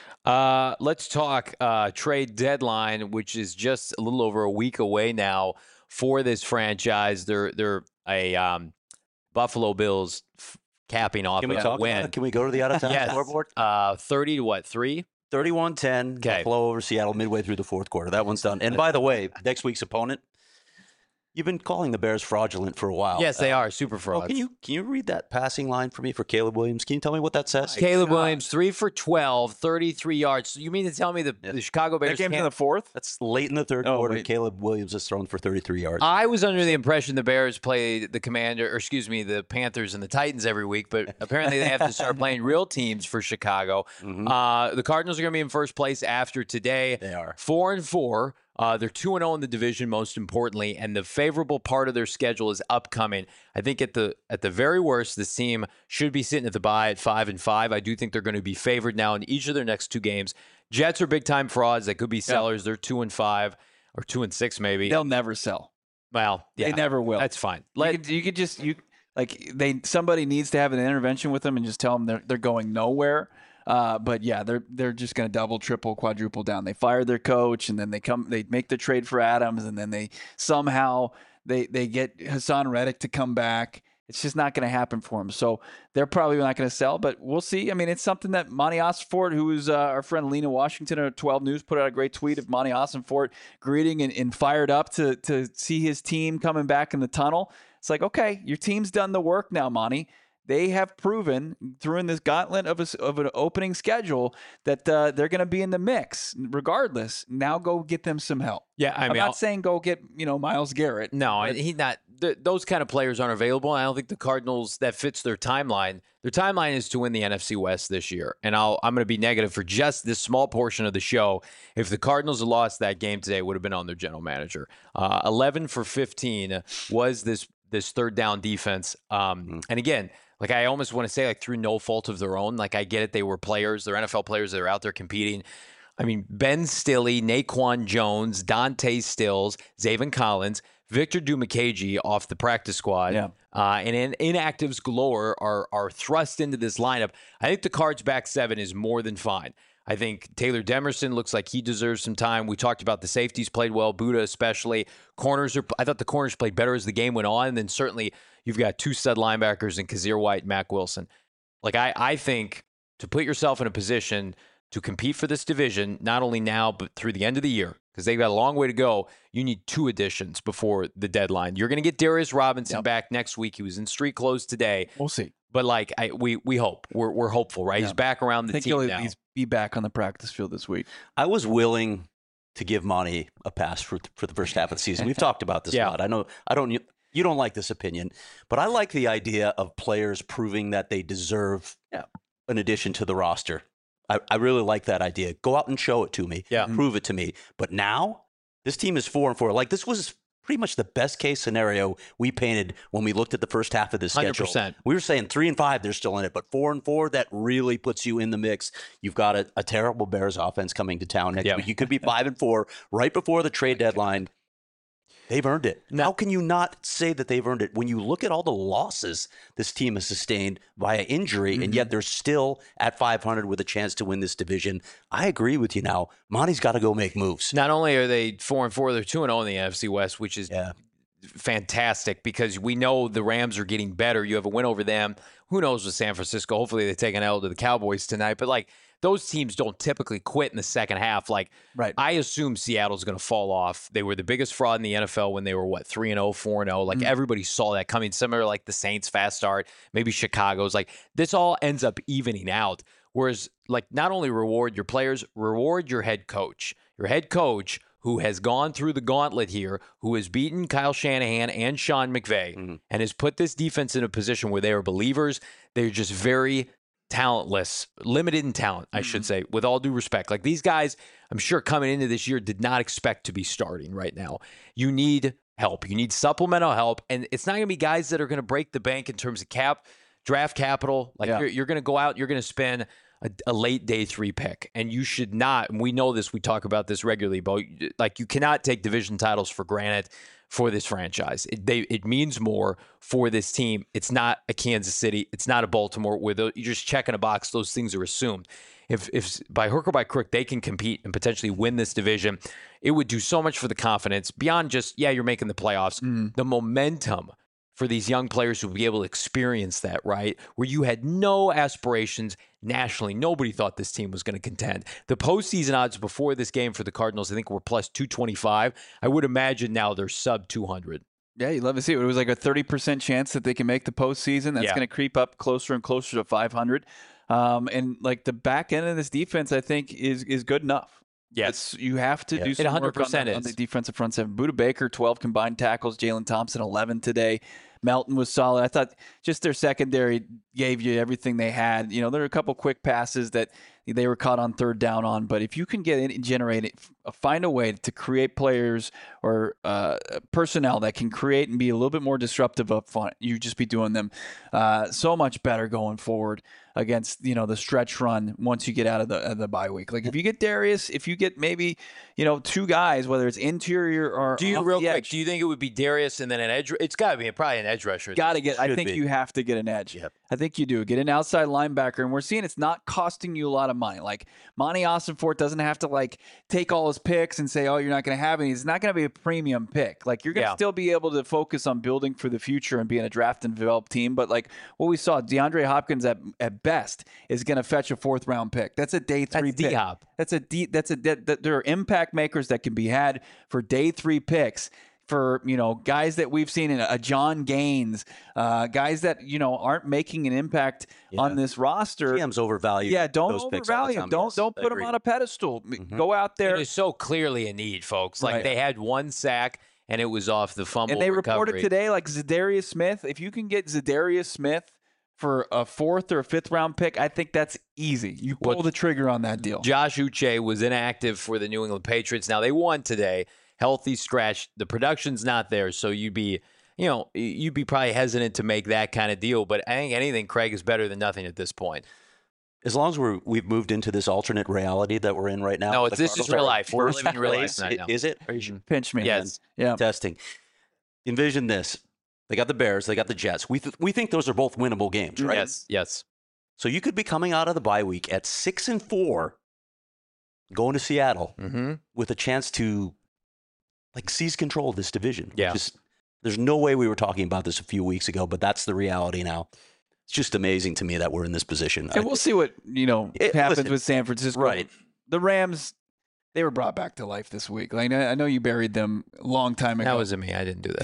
Let's talk trade deadline, which is just a little over a week away now for this franchise. They're a Buffalo Bills capping off a win. Can we go to the out-of-town scoreboard? 30 to what, 3? 31-10, Buffalo over Seattle midway through the fourth quarter. That one's done. And by the way, next week's opponent, you've been calling the Bears fraudulent for a while. Yes, they are super frauds. Can you read that passing line for me for Caleb Williams? Can you tell me what that says? Caleb Williams, 3 for 12, 33 yards. So you mean to tell me the Chicago Bears That game's in the fourth? That's late in the third quarter. Wait. Caleb Williams has thrown for 33 yards. I was under the impression the Bears play the the Panthers and the Titans every week, but apparently they have to start playing real teams for Chicago. Mm-hmm. The Cardinals are going to be in first place after today. They are 4-4. They're 2-0 in the division, most importantly, and the favorable part of their schedule is upcoming. I think at the very worst, this team should be sitting at the bye at 5-5. I do think they're going to be favored now in each of their next 2 games. Jets are big-time frauds. They could be sellers. They're 2-5 or 2-6 maybe. They'll never sell. Well, yeah, they never will. That's fine. You could just Like somebody needs to have an intervention with them and just tell them they're going nowhere. But yeah, they're just going to double, triple, quadruple down. They fired their coach, and then they make the trade for Adams, and then they somehow they get Hassan Reddick to come back. It's just not going to happen for him. So they're probably not going to sell, but we'll see. I mean, it's something that Monty Ossenfort, who is our friend Lena Washington at 12 News, put out a great tweet of Monty Ossenfort greeting and fired up to see his team coming back in the tunnel. It's like, okay, your team's done the work now, Monty. They have proven through in this gauntlet of an opening schedule that they're going to be in the mix regardless. Now go get them some help. Yeah, I'm not saying go get Myles Garrett. No, he's not. Those kind of players aren't available. I don't think the Cardinals, that fits their timeline. Their timeline is to win the NFC West this year. And I'm going to be negative for just this small portion of the show. If the Cardinals had lost that game today, it would have been on their general manager. 11 for 15 was this third down defense. And again, like I almost want to say, like through no fault of their own. Like I get it, they were players, they're NFL players that are out there competing. I mean, Ben Stille, Naquan Jones, Dante Stills, Zaven Collins, Victor Dimukeje off the practice squad, and inactives galore are thrust into this lineup. I think the Cards' back seven is more than fine. I think Taylor Demerson looks like he deserves some time. We talked about the safeties played well, Buddha especially. I thought the corners played better as the game went on. And then certainly you've got two stud linebackers in Kazir White and Mack Wilson. Like I think to put yourself in a position to compete for this division, not only now, but through the end of the year, because they've got a long way to go, you need two additions before the deadline. You're going to get Darius Robinson back next week. He was in street clothes today. We'll see. But like we hope. We're hopeful, right? Yeah. He's back around the team now. He's be back on the practice field this week. I was willing to give Monty a pass for the first half of the season. We've talked about this a lot. I know you don't like this opinion, but I like the idea of players proving that they deserve an addition to the roster. I really like that idea. Go out and show it to me. Yeah. Prove it to me. But now, this team is 4-4. Like, this was pretty much the best case scenario we painted when we looked at the first half of the schedule. 100%. We were saying 3-5, they're still in it. But 4-4, that really puts you in the mix. You've got a terrible Bears offense coming to town next week. You could be 5-4 right before the trade deadline. They've earned it. How can you not say that they've earned it when you look at all the losses this team has sustained via injury, and yet they're still at 500 with a chance to win this division? I agree with you now. Monty's got to go make moves. Not only are they 4-4, they're 2-0 in the NFC West, which is fantastic because we know the Rams are getting better. You have a win over them. Who knows with San Francisco? Hopefully they take an L to the Cowboys tonight. But like, those teams don't typically quit in the second half. Like, I assume Seattle's going to fall off. They were the biggest fraud in the NFL when they were, 3-0, 4-0. Like, everybody saw that coming. Similar like the Saints' fast start, maybe Chicago's. Like, this all ends up evening out. Whereas, like, not only reward your players, reward your head coach. Your head coach who has gone through the gauntlet here, who has beaten Kyle Shanahan and Sean McVay, and has put this defense in a position where they are believers. They're just very talentless, limited in talent, I should say, with all due respect. Like, these guys, I'm sure coming into this year did not expect to be starting right now. You need help. You need supplemental help. And it's not going to be guys that are going to break the bank in terms of draft capital. Like, you're going to go out, you're going to spend a late day 3 pick. And you should not, and we know this, we talk about this regularly, but like, you cannot take division titles for granted for this franchise. It means more for this team. It's not a Kansas City. It's not a Baltimore where you're just checking a box. Those things are assumed. If by hook or by crook they can compete and potentially win this division, it would do so much for the confidence beyond just, you're making the playoffs. The momentum for these young players to be able to experience that, right? Where you had no aspirations nationally. Nobody thought this team was going to contend. The postseason odds before this game for the Cardinals, I think, were plus 225. I would imagine now they're sub 200. Yeah, you'd love to see it. It was like a 30% chance that they can make the postseason. That's going to creep up closer and closer to 500. And like the back end of this defense, I think, is good enough. Yes. You have to do some work on the defensive front seven. Budda Baker, 12 combined tackles. Jalen Thompson, 11 today. Melton was solid. I thought just their secondary gave you everything they had. There are a couple quick passes that they were caught on third down on, but if you can find a way to create players or personnel that can create and be a little bit more disruptive up front, you just be doing them so much better going forward. against the stretch run once you get out of the bye week. Like if you get Darius, if you get maybe two guys, whether it's interior or do you off real the quick? edge, Do you think it would be Darius and then an edge? It's got to be probably an edge rusher. got to get. I Should think be. you have to get an edge. Yep. I think you do get an outside linebacker, and we're seeing it's not costing you a lot of money. Like Monty Ossenfort doesn't have to like take all his picks and say, "Oh, you're not going to have any." It's not going to be a premium pick. Like you're going to still be able to focus on building for the future and being a draft and develop team. But like what we saw, DeAndre Hopkins at best is going to fetch a 4th round pick. That's a day 3 That's pick. D-Hop. There are impact makers that can be had for day 3 picks. For guys that we've seen in a John Gaines, guys that aren't making an impact on this roster. GM's overvalued. Yeah, don't those picks all the overvalue him. time. Yes, Don't I put him agree. on a pedestal. Go out there. It is so clearly a need, folks. Like Right. they had 1 sack and it was off the fumble And they recovery. reported today, like Zadarius Smith. If you can get Zadarius Smith for a 4th or 5th round pick, I think that's easy. You pull the trigger on that deal. Josh Uche was inactive for the New England Patriots. Now they won today. Healthy scratch. The production's not there, so you'd be probably hesitant to make that kind of deal. But I think anything, Craig, is better than nothing at this point. As long as we've moved into this alternate reality that we're in right now. No, the this is Cardinals real are life. We're first living real life place. right now. Is it? Are you sure? Pinch me. Yes. Yeah. Testing. Envision this. They got the Bears. They got the Jets. We think those are both winnable games, right? Yes. So you could be coming out of the bye week at 6-4, going to Seattle with a chance to seize control of this division. Yeah. There's no way we were talking about this a few weeks ago, but that's the reality now. It's just amazing to me that we're in this position. And we'll see what happens listen, with San Francisco. right. The Rams, they were brought back to life this week. Like I know you buried them a long time ago. That wasn't me. I didn't do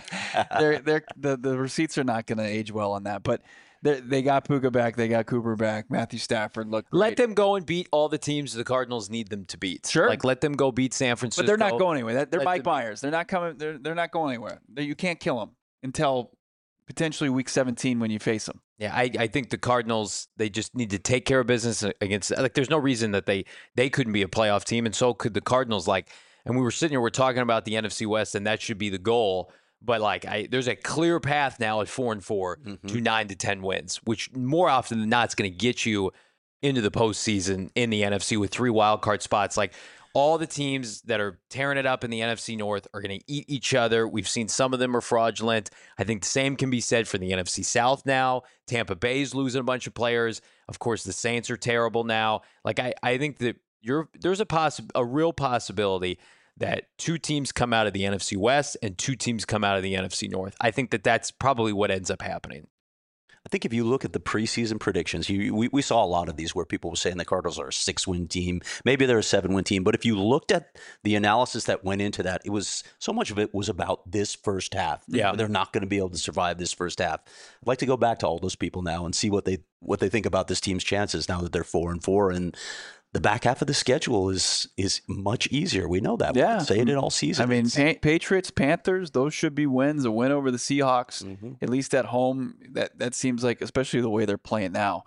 that. the receipts are not going to age well on that, but they got Puka back, they got Cooper back, Matthew Stafford looked great. Let them go and beat all the teams the Cardinals need them to beat. Sure. Like let them go beat San Francisco. But they're not going anywhere. They're Let Mike them- Myers. They're not coming. They're not going anywhere. You can't kill them until potentially week 17 when you face them. Yeah, I think the Cardinals, they just need to take care of business against, there's no reason that they couldn't be a playoff team, and so could the Cardinals. And we were sitting here, we're talking about the NFC West, and that should be the goal. But there's a clear path now at 4-4 to 9 to 10 wins, which more often than not is going to get you into the postseason in the NFC with 3 wild card spots. Like all the teams that are tearing it up in the NFC North are going to eat each other. We've seen some of them are fraudulent. I think the same can be said for the NFC South now. Tampa Bay's losing a bunch of players. Of course, the Saints are terrible now. I think that there's a real possibility that 2 teams come out of the NFC West and 2 teams come out of the NFC North. I think that that's probably what ends up happening. I think if you look at the preseason predictions, we saw a lot of these where people were saying the Cardinals are a 6-win team. Maybe they're a 7-win team. But if you looked at the analysis that went into that, it was so much of it was about this first half. Yeah. They're not going to be able to survive this first half. I'd like to go back to all those people now and see what they think about this team's chances now that they're 4-4. And the back half of the schedule is much easier. We know that. Yeah. We've been saying it all season. I mean, Patriots, Panthers, those should be wins. A win over the Seahawks, at least at home. That seems like, especially the way they're playing now.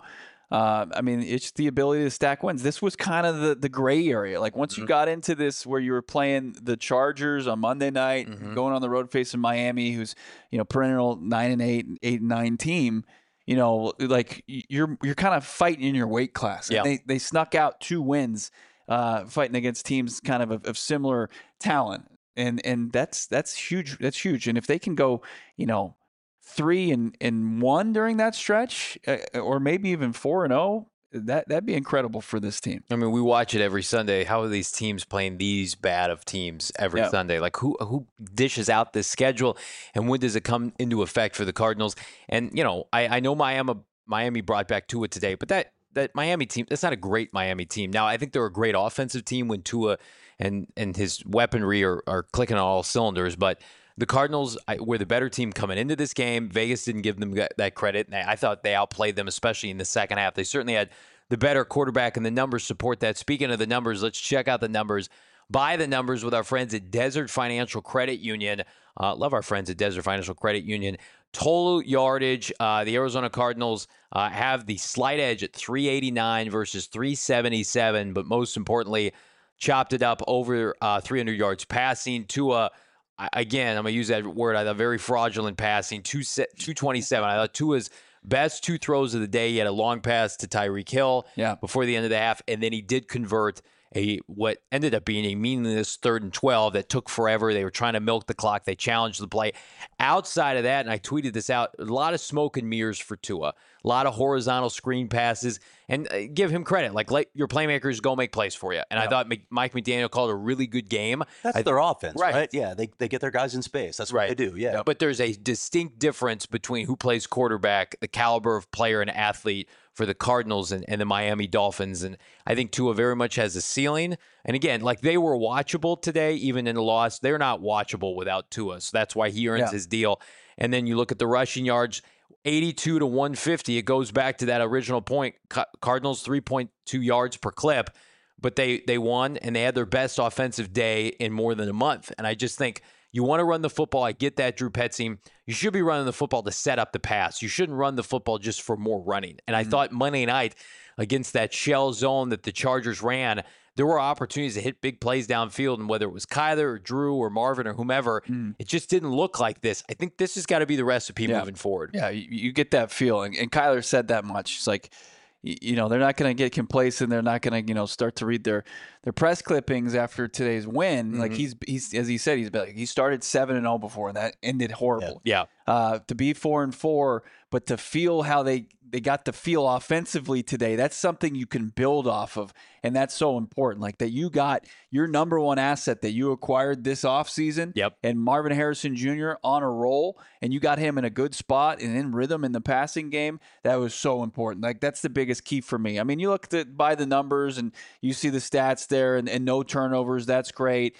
I mean, it's the ability to stack wins. This was kind of the gray area. Like once you got into this, where you were playing the Chargers on Monday night, going on the road facing Miami, who's perennial 9-8, 8-9 team. Like you're kind of fighting in your weight class. And Yeah. they snuck out 2 wins, fighting against teams kind of similar talent, and that's huge. That's huge. And if they can go, 3-1 during that stretch, or maybe even 4-0, that'd be incredible for this team. I mean, we watch it every Sunday. How are these teams playing these bad of teams every Sunday? Like who dishes out this schedule, and when does it come into effect for the Cardinals? And I know Miami brought back Tua today, but that Miami team, that's not a great Miami team. Now I think they're a great offensive team when Tua and his weaponry are clicking on all cylinders, but the Cardinals were the better team coming into this game. Vegas didn't give them that credit, and I thought they outplayed them, especially in the second half. They certainly had the better quarterback, and the numbers support that. Speaking of the numbers, let's check out the numbers. Buy the numbers with our friends at Desert Financial Credit Union. Love our friends at Desert Financial Credit Union. Total yardage, the Arizona Cardinals have the slight edge at 389 versus 377, but most importantly, chopped it up over 300 yards passing. Tua, again, I'm going to use that word, I thought very fraudulent passing, 227. I thought Tua's best 2 throws of the day. He had a long pass to Tyreek Hill Yeah. before the end of the half, and then he did convert what ended up being a meaningless 3rd and 12 that took forever. They were trying to milk the clock. They challenged the play. Outside of that, and I tweeted this out, a lot of smoke and mirrors for Tua. A lot of horizontal screen passes. And give him credit. Like, let your playmakers go make plays for you. And I thought Mike McDaniel called a really good game. That's their offense, Right. right? Yeah, they get their guys in space. That's what they do, yeah. But there's a distinct difference between who plays quarterback, the caliber of player and athlete for the Cardinals and the Miami Dolphins. And I think Tua very much has a ceiling. And again, like, they were watchable today, even in the loss. They're not watchable without Tua. So that's why he earns his deal. And then you look at the rushing yards, 82 to 150. It goes back to that original point. Cardinals 3.2 yards per clip, but they won, and they had their best offensive day in more than a month. And I just think you want to run the football. I get that, Drew Petzing. You should be running the football to set up the pass. You shouldn't run the football just for more running. And I thought Monday night against that shell zone that the Chargers ran, there were opportunities to hit big plays downfield, and whether it was Kyler or Drew or Marvin or whomever, it just didn't look like this. I think this has got to be the recipe moving forward. Yeah, you get that feeling. And Kyler said that much. It's like, you know, they're not going to get complacent. They're not going to, you know, start to read their press clippings after today's win. Like, he's as he said, he started 7-0 before, and that ended horrible. Yeah. To be 4-4, but to feel how they got to feel offensively today, that's something you can build off of. And that's so important. Like, that you got your number one asset that you acquired this offseason. Yep. And Marvin Harrison Jr. on a roll, and you got him in a good spot and in rhythm in the passing game. That was so important. Like, that's the biggest key for me. I mean, you look by the numbers and you see the stats there, and no turnovers. That's great.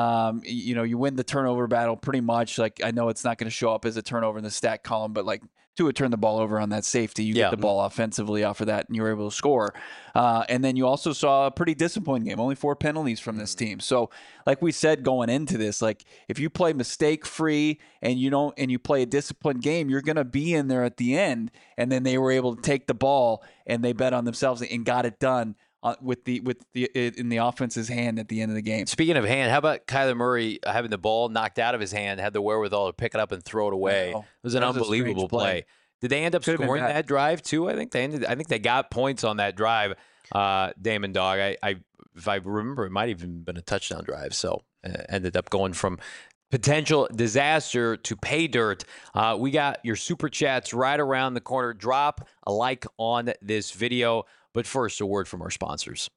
You know, you win the turnover battle pretty much. Like, I know it's not going to show up as a turnover in the stat column, but like, Tua turned the ball over on that safety. You get the ball offensively off of that, and you were able to score. And then you also saw a pretty disciplined game. Only 4 penalties from this team. So, like we said going into this, like, if you play mistake-free and you play a disciplined game, you're going to be in there at the end. And then they were able to take the ball, and they bet on themselves and got it done in the offense's hand at the end of the game. Speaking of hand, how about Kyler Murray having the ball knocked out of his hand, had the wherewithal to pick it up and throw it away? It was an unbelievable play. Did they end up scoring that drive too? I think they got points on that drive. Damon Dog. If I remember, it might have even been a touchdown drive. So ended up going from potential disaster to pay dirt. We got your super chats right around the corner. Drop a like on this video. But first, a word from our sponsors.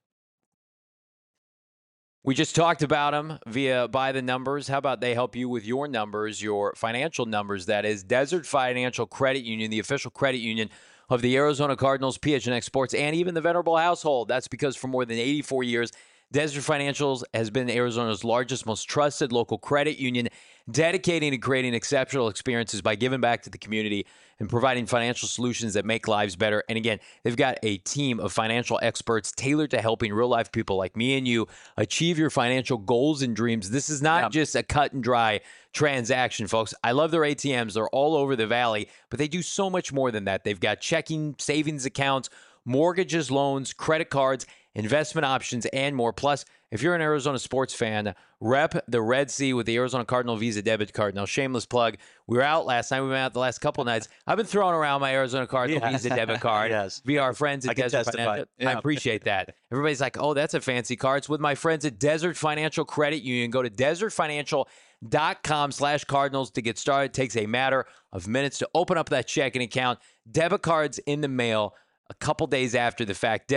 We just talked about them via By the Numbers. How about they help you with your numbers, your financial numbers? That is Desert Financial Credit Union, the official credit union of the Arizona Cardinals, PHNX Sports, and even the Venerable household. That's because for more than 84 years, Desert Financial has been Arizona's largest, most trusted local credit union, dedicating to creating exceptional experiences by giving back to the community and providing financial solutions that make lives better. And again, they've got a team of financial experts tailored to helping real-life people like me and you achieve your financial goals and dreams. This is not just a cut and dry transaction, folks. I love their ATMs. They're all over the valley, but they do so much more than that. They've got checking, savings accounts, mortgages, loans, credit cards, investment options, and more. Plus, if you're an Arizona sports fan, rep the Red Sea with the Arizona Cardinal Visa debit card. Now, shameless plug. We were out last night. We went out the last couple of nights. I've been throwing around my Arizona Cardinal Visa debit card via our friends at Desert Financial. I appreciate that. Everybody's like, oh, that's a fancy card. It's with my friends at Desert Financial Credit Union. Go to desertfinancial.com/Cardinals to get started. It takes a matter of minutes to open up that checking account. Debit cards in the mail a couple days after the fact.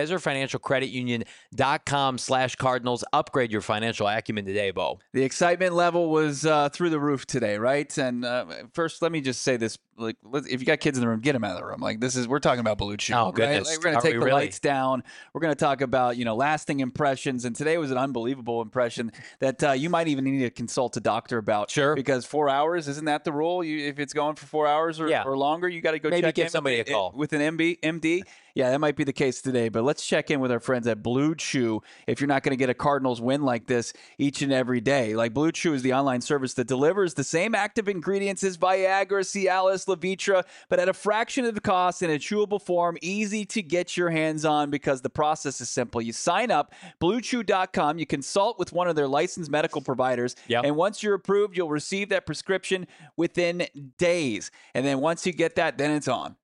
DesertFinancialCreditUnion.com/Cardinals. Upgrade your financial acumen today, Bo. The excitement level was through the roof today, right? And first, let me just say this: like, if you got kids in the room, get them out of the room. Like, we're talking about Blue Chew. Oh, goodness. Right? Like, we're going to take the lights down. We're going to talk about, lasting impressions. And today was an unbelievable impression that you might even need to consult a doctor about. Sure. Because 4 hours, isn't that the rule? If it's going for 4 hours or longer, you got to go check give in somebody a call with an MD. Yeah, that might be the case today, but let's check in with our friends at Blue Chew if you're not going to get a Cardinals win like this each and every day. Like, Blue Chew is the online service that delivers the same active ingredients as Viagra, Cialis, Levitra, but at a fraction of the cost in a chewable form, easy to get your hands on because the process is simple. You sign up, BlueChew.com, you consult with one of their licensed medical providers, and once you're approved, you'll receive that prescription within days. And then once you get that, then it's on.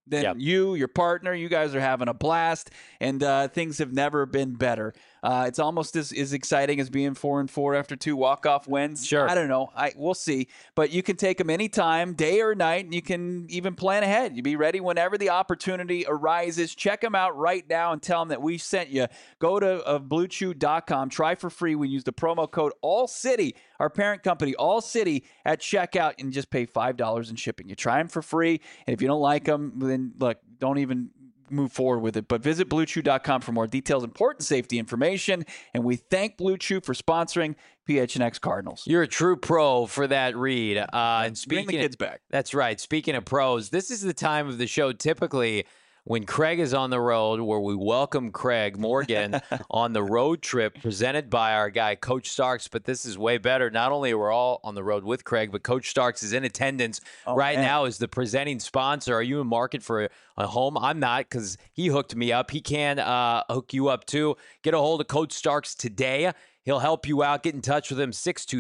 than your partner. You guys are having a blast, and things have never been better. It's almost as exciting as being 4-4 after 2 walk-off wins. Sure. I don't know. We'll see. But you can take them anytime, day or night, and you can even plan ahead. You be ready whenever the opportunity arises. Check them out right now and tell them that we sent you. Go to BlueChew.com. Try for free. We use the promo code AllCity, our parent company, AllCity, at checkout, and just pay $5 in shipping. You try them for free, and if you don't like them, then look, don't even move forward with it. But visit BlueChew.com for more details, important safety information. And we thank Blue Chew for sponsoring PHNX Cardinals. You're a true pro for that read. And Bring the kids back. That's right. Speaking of pros, this is the time of the show typically when Craig is on the road, where we welcome Craig Morgan on the road trip presented by our guy, Coach Starks. But this is way better. Not only are we all on the road with Craig, but Coach Starks is in attendance now as the presenting sponsor. Are you in market for a home? I'm not, because he hooked me up. He can hook you up too. Get a hold of Coach Starks today. He'll help you out. Get in touch with him,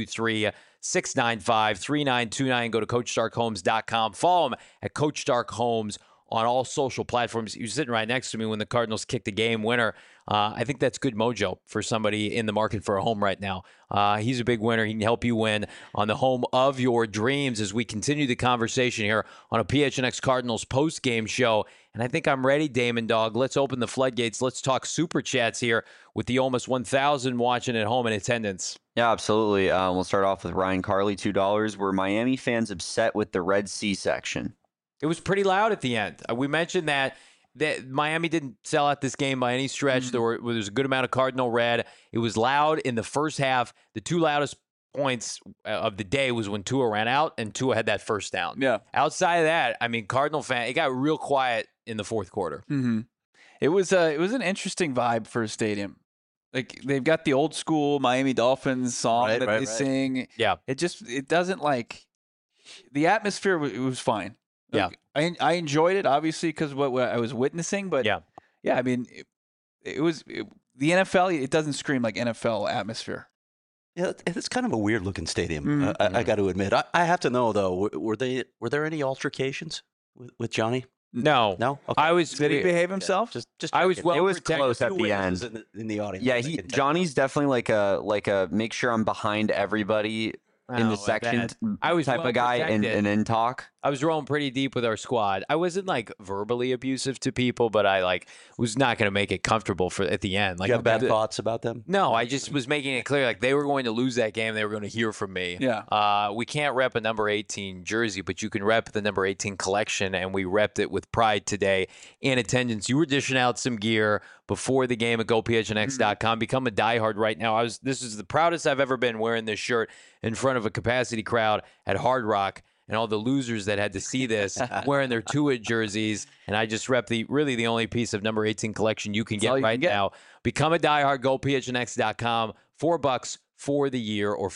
623-695-3929. Go to CoachStarkHomes.com. Follow him at Coach Stark Homes on all social platforms. He was sitting right next to me when the Cardinals kicked the game winner. I think that's good mojo for somebody in the market for a home right now. He's a big winner. He can help you win on the home of your dreams as we continue the conversation here on a PHNX Cardinals post-game show. And I think I'm ready, Damon Dog. Let's open the floodgates. Let's talk Super Chats here with the almost 1,000 watching at home in attendance. Yeah, absolutely. We'll start off with Ryan Carley, $2. Were Miami fans upset with the Red Sea section? It was pretty loud at the end. We mentioned that Miami didn't sell out this game by any stretch. Mm-hmm. There was a good amount of Cardinal red. It was loud in the first half. The two loudest points of the day was when Tua ran out and Tua had that first down. Yeah. Outside of that, I mean, Cardinal fan, it got real quiet in the fourth quarter. Mm-hmm. It was an interesting vibe for a stadium. Like, they've got the old school Miami Dolphins song that they sing. Yeah. It doesn't, like, the atmosphere, it was fine. Yeah. I enjoyed it, obviously, because what I was witnessing. But, yeah, I mean, it was the NFL, it doesn't scream like NFL atmosphere. Yeah, it's kind of a weird-looking stadium, I got to admit. I have to know, though, were there any altercations with Johnny? No. Okay. Did he behave himself? Just it was close at the end. In the audience. Yeah, Johnny's definitely like a make sure I'm behind everybody in the section type of guy and then talk. I was rolling pretty deep with our squad. I wasn't like verbally abusive to people, but I was not going to make it comfortable for at the end. Like, you have bad thoughts about them? No, I just was making it clear like they were going to lose that game. They were going to hear from me. Yeah. We can't rep a number 18 jersey, but you can rep the number 18 collection, and we repped it with pride today in attendance. You were dishing out some gear before the game at GoPHNX.com. Become a diehard right now. This is the proudest I've ever been wearing this shirt in front of a capacity crowd at Hard Rock. And all the losers that had to see this wearing their Tua jerseys. And I just rep the only piece of number 18 collection you can get right now. Become a diehard, GoPHNX.com. $4 for the year, or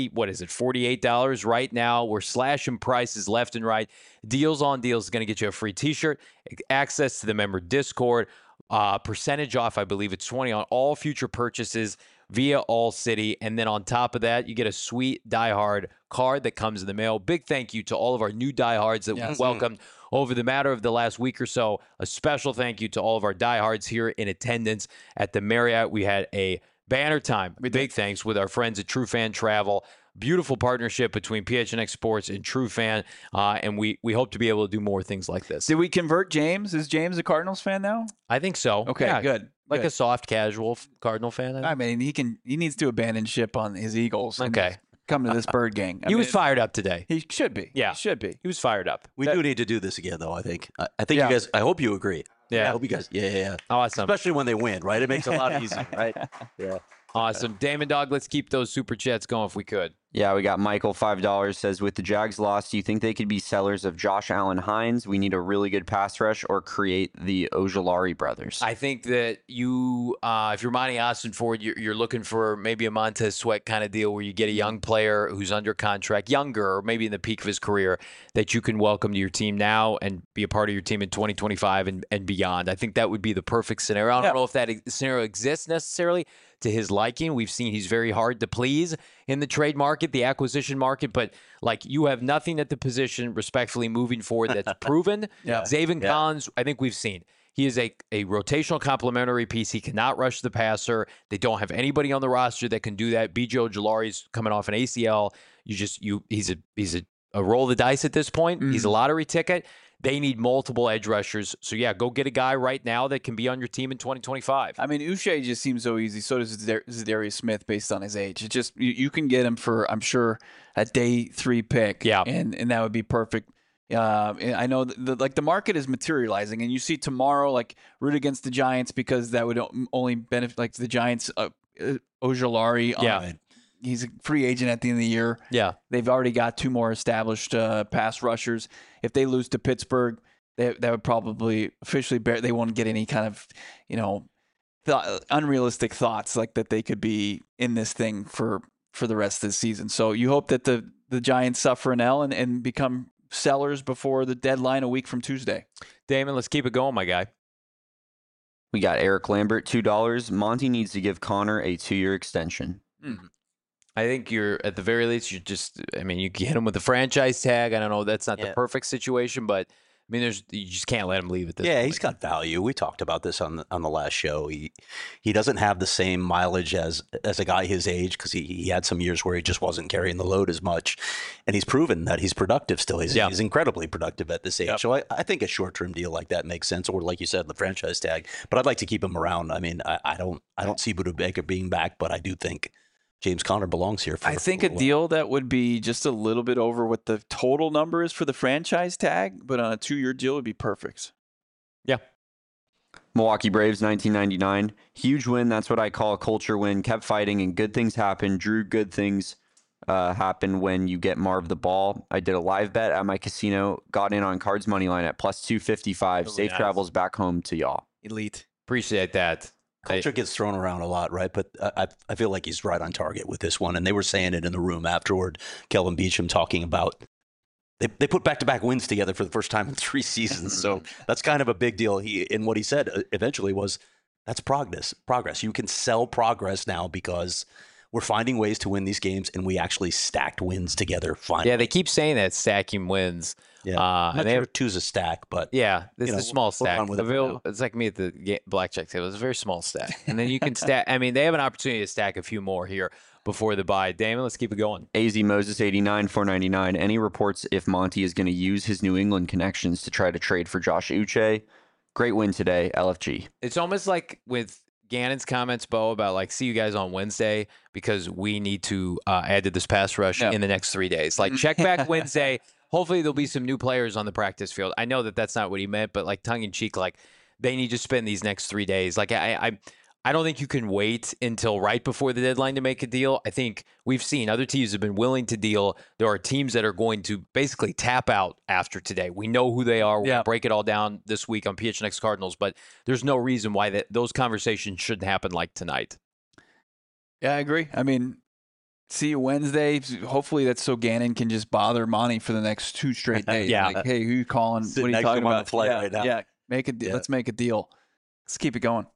$48 right now. We're slashing prices left and right. Deals on deals is going to get you a free t-shirt, access to the member Discord, percentage off, I believe it's 20 on all future purchases via All City. And then on top of that, you get a sweet diehard card that comes in the mail. Big thank you to all of our new diehards that we welcomed over the matter of the last week or so. A special thank you to all of our diehards here in attendance at the Marriott. We had a banner time. Big thanks with our friends at True Fan Travel. Beautiful partnership between PHNX Sports and True Fan, and we hope to be able to do more things like this. Did we convert James? Is James a Cardinals fan now? I think so. Okay, yeah, good. Like a soft, casual Cardinal fan. I mean, he needs to abandon ship on his Eagles. Okay. Come to this Bird gang. He was fired up today. He should be. Yeah. He should be. He was fired up. We do need to do this again, though, I think. I think you guys, I hope you agree. Yeah. I hope you guys, yeah. Awesome. Especially when they win, right? It makes it a lot easier, right? Yeah. Awesome. Damon Dog, let's keep those super chats going if we could. Yeah, we got Michael, $5, says, with the Jags loss, do you think they could be sellers of Josh Allen Hines? We need a really good pass rush or create the Ojulari brothers. I think that you, if you're Monty Austin Ford, you're looking for maybe a Montez Sweat kind of deal where you get a young player who's under contract, younger, or maybe in the peak of his career, that you can welcome to your team now and be a part of your team in 2025 and beyond. I think that would be the perfect scenario. I don't know if that scenario exists necessarily to his liking. We've seen he's very hard to please in the trade market, the acquisition market, but like you have nothing at the position respectfully moving forward that's proven. Zaven Collins, I think we've seen. He is a rotational complementary piece. He cannot rush the passer. They don't have anybody on the roster that can do that. B.J. Ojulari's coming off an ACL. He's a roll the dice at this point. He's a lottery ticket. They need multiple edge rushers. So, yeah, go get a guy right now that can be on your team in 2025. I mean, Uche just seems so easy. So does Zadarius Smith based on his age. It just you can get him for, I'm sure, a day 3 pick. Yeah. And that would be perfect. I know the market is materializing, and you see tomorrow, like, root against the Giants because that would only benefit, like, the Giants, Ojulari. Yeah. He's a free agent at the end of the year. Yeah. They've already got 2 more established pass rushers. If they lose to Pittsburgh, that would probably officially they won't get any kind of, unrealistic thoughts like that they could be in this thing for the rest of the season. So you hope that the Giants suffer an L and become sellers before the deadline a week from Tuesday. Damon, let's keep it going, my guy. We got Eric Lambert, $2. Monty needs to give Connor a 2-year extension. I think you're, at the very least, you can hit him with the franchise tag. I don't know. That's not the perfect situation, but I mean, you just can't let him leave at this point. Yeah, he's got value. We talked about this on the last show. He doesn't have the same mileage as a guy his age because he had some years where he just wasn't carrying the load as much, and he's proven that he's productive still. He's incredibly productive at this age. Yep. So I think a short-term deal like that makes sense, or like you said, the franchise tag. But I'd like to keep him around. I mean, I don't see Budda Baker being back, but I do think James Conner belongs here. I think a deal that would be just a little bit over what the total number is for the franchise tag, but on a 2-year deal would be perfect. Yeah. Milwaukee Braves, 1999. Huge win. That's what I call a culture win. Kept fighting and good things happen. Drew, good things happen when you get Marv the ball. I did a live bet at my casino. Got in on Cards money line at plus 255. Safe travels back home to y'all. Elite. Appreciate that. Culture gets thrown around a lot, right? But I feel like he's right on target with this one. And they were saying it in the room afterward. Kelvin Beachum talking about they put back-to-back wins together for the first time in 3 seasons. So that's kind of a big deal. And what he said eventually was, that's progress. You can sell progress now because we're finding ways to win these games, and we actually stacked wins together finally. Yeah, they keep saying that, stacking wins. Yeah, I'm not sure 2's a stack, but yeah, this is a small stack. It's like me at the blackjack table. It's a very small stack, and then you can stack. I mean, they have an opportunity to stack a few more here before the bye. Damon, let's keep it going. AZ Moses 89 $4.99. Any reports if Monty is going to use his New England connections to try to trade for Josh Uche? Great win today, LFG. It's almost like with Gannon's comments, Bo, about like, see you guys on Wednesday because we need to add to this pass rush in the next 3 days. Like, check back Wednesday. Hopefully there'll be some new players on the practice field. I know that that's not what he meant, but like tongue in cheek, like they need to spend these next 3 days. Like I don't think you can wait until right before the deadline to make a deal. I think we've seen other teams have been willing to deal. There are teams that are going to basically tap out after today. We know who they are. We'll break it all down this week on PHNX Cardinals, but there's no reason why those conversations shouldn't happen like tonight. Yeah, I agree. I mean, see you Wednesday. Hopefully that's so Gannon can just bother Monty for the next 2 straight days. Like, hey, who you calling? What are you talking about? On the flight right now. Yeah, make a deal. Let's make a deal. Let's keep it going.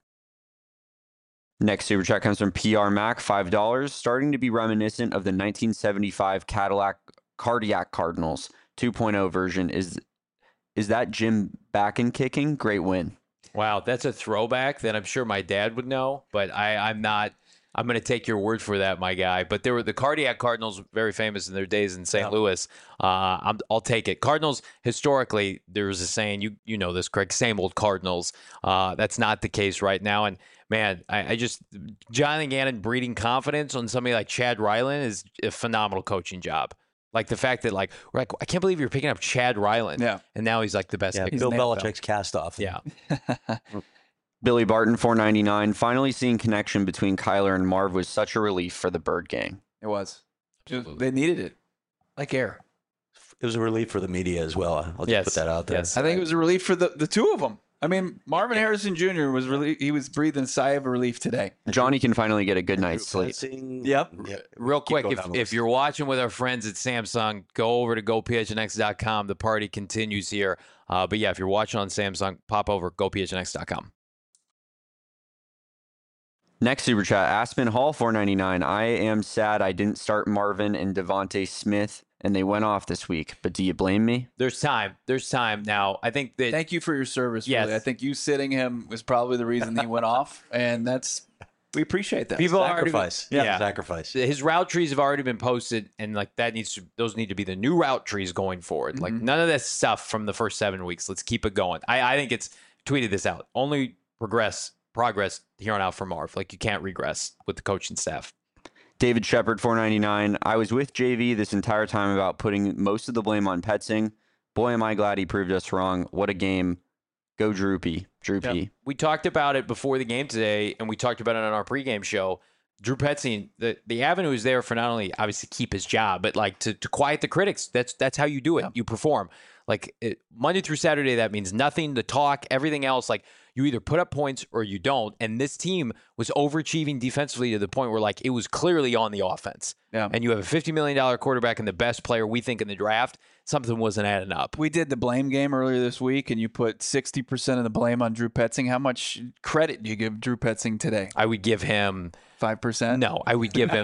Next super chat comes from PR Mac, $5. Starting to be reminiscent of the 1975 Cadillac Cardiac Cardinals 2.0 version. Is that Jim back and kicking? Great win. Wow, that's a throwback that I'm sure my dad would know, but I'm not. I'm going to take your word for that, my guy. But there were the Cardiac Cardinals, very famous in their days in St. Louis. I'll take it. Cardinals, historically, there was a saying, you know this, Craig, same old Cardinals. That's not the case right now. And, man, I just – Jonathan Gannon breeding confidence on somebody like Chad Ryland is a phenomenal coaching job. Like the fact that, like, we're like, I can't believe you're picking up Chad Ryland. Yeah. And now he's like the best. Yeah, Bill Belichick's cast off. Yeah. Billy Barton, $4.99. Finally seeing connection between Kyler and Marv was such a relief for the Bird gang. It was. They needed it. Like air. It was a relief for the media as well. I'll just put that out there. Yes. I think it was a relief for the 2 of them. I mean, Marvin Harrison Jr. was breathing a sigh of relief today. Johnny can finally get a good night's sleep. Yep. Real quick, if you're watching with our friends at Samsung, go over to gophnx.com. The party continues here. But yeah, if you're watching on Samsung, pop over gophnx.com. Next super chat, Aspen Hall 499. I am sad I didn't start Marvin and Devontae Smith, and they went off this week. But do you blame me? There's time. There's time now. I think that Thank you for your service. Yes. Really. I think you sitting him was probably the reason he went off, and we appreciate that. people are already Sacrifice. Yeah. Sacrifice. his route trees have already been posted, and like those need to be the new route trees going forward. Like none of this stuff from the first 7 weeks. Let's keep it going. I think it's tweeted this out. Only progress here on out for Marv. Like you can't regress with the coaching staff. David Shepard 499. I was with JV this entire time about putting most of the blame on Petsing. Boy, am I glad he proved us wrong. What a game. Go Droopy. Droopy. We talked about it before the game today, and we talked about it on our pregame show. Drew Petzing, the avenue is there for not only obviously keep his job, but like to quiet the critics. That's how you do it. Yeah. You perform. Like Monday through Saturday, that means nothing to talk. Everything else, like you either put up points or you don't. And this team was overachieving defensively to the point where like it was clearly on the offense. Yeah. And you have a $50 million quarterback and the best player we think in the draft. Something wasn't adding up. We did the blame game earlier this week, and you put 60% of the blame on Drew Petzing. How much credit do you give Drew Petzing today? I would give him 5%. No, I would give him.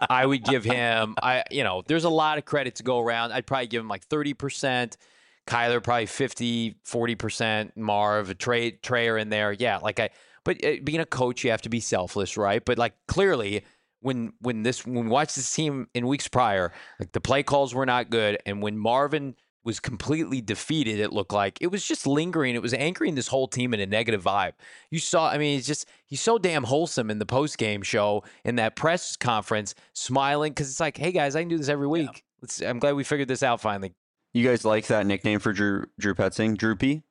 There's a lot of credit to go around. I'd probably give him like 30%. Kyler probably 50, 40%. Marv, Trey are in there. Yeah, but being a coach, you have to be selfless, right? But like clearly, when we watched this team in weeks prior, like the play calls were not good, and when Marvin was completely defeated, it looked like it was just lingering. It was anchoring this whole team in a negative vibe. You saw, I mean, he's so damn wholesome in the post-game show, in that press conference, smiling, because it's like, hey guys, I can do this every week. Yeah. I'm glad we figured this out finally. You guys like that nickname for Drew Petzing? Droopy?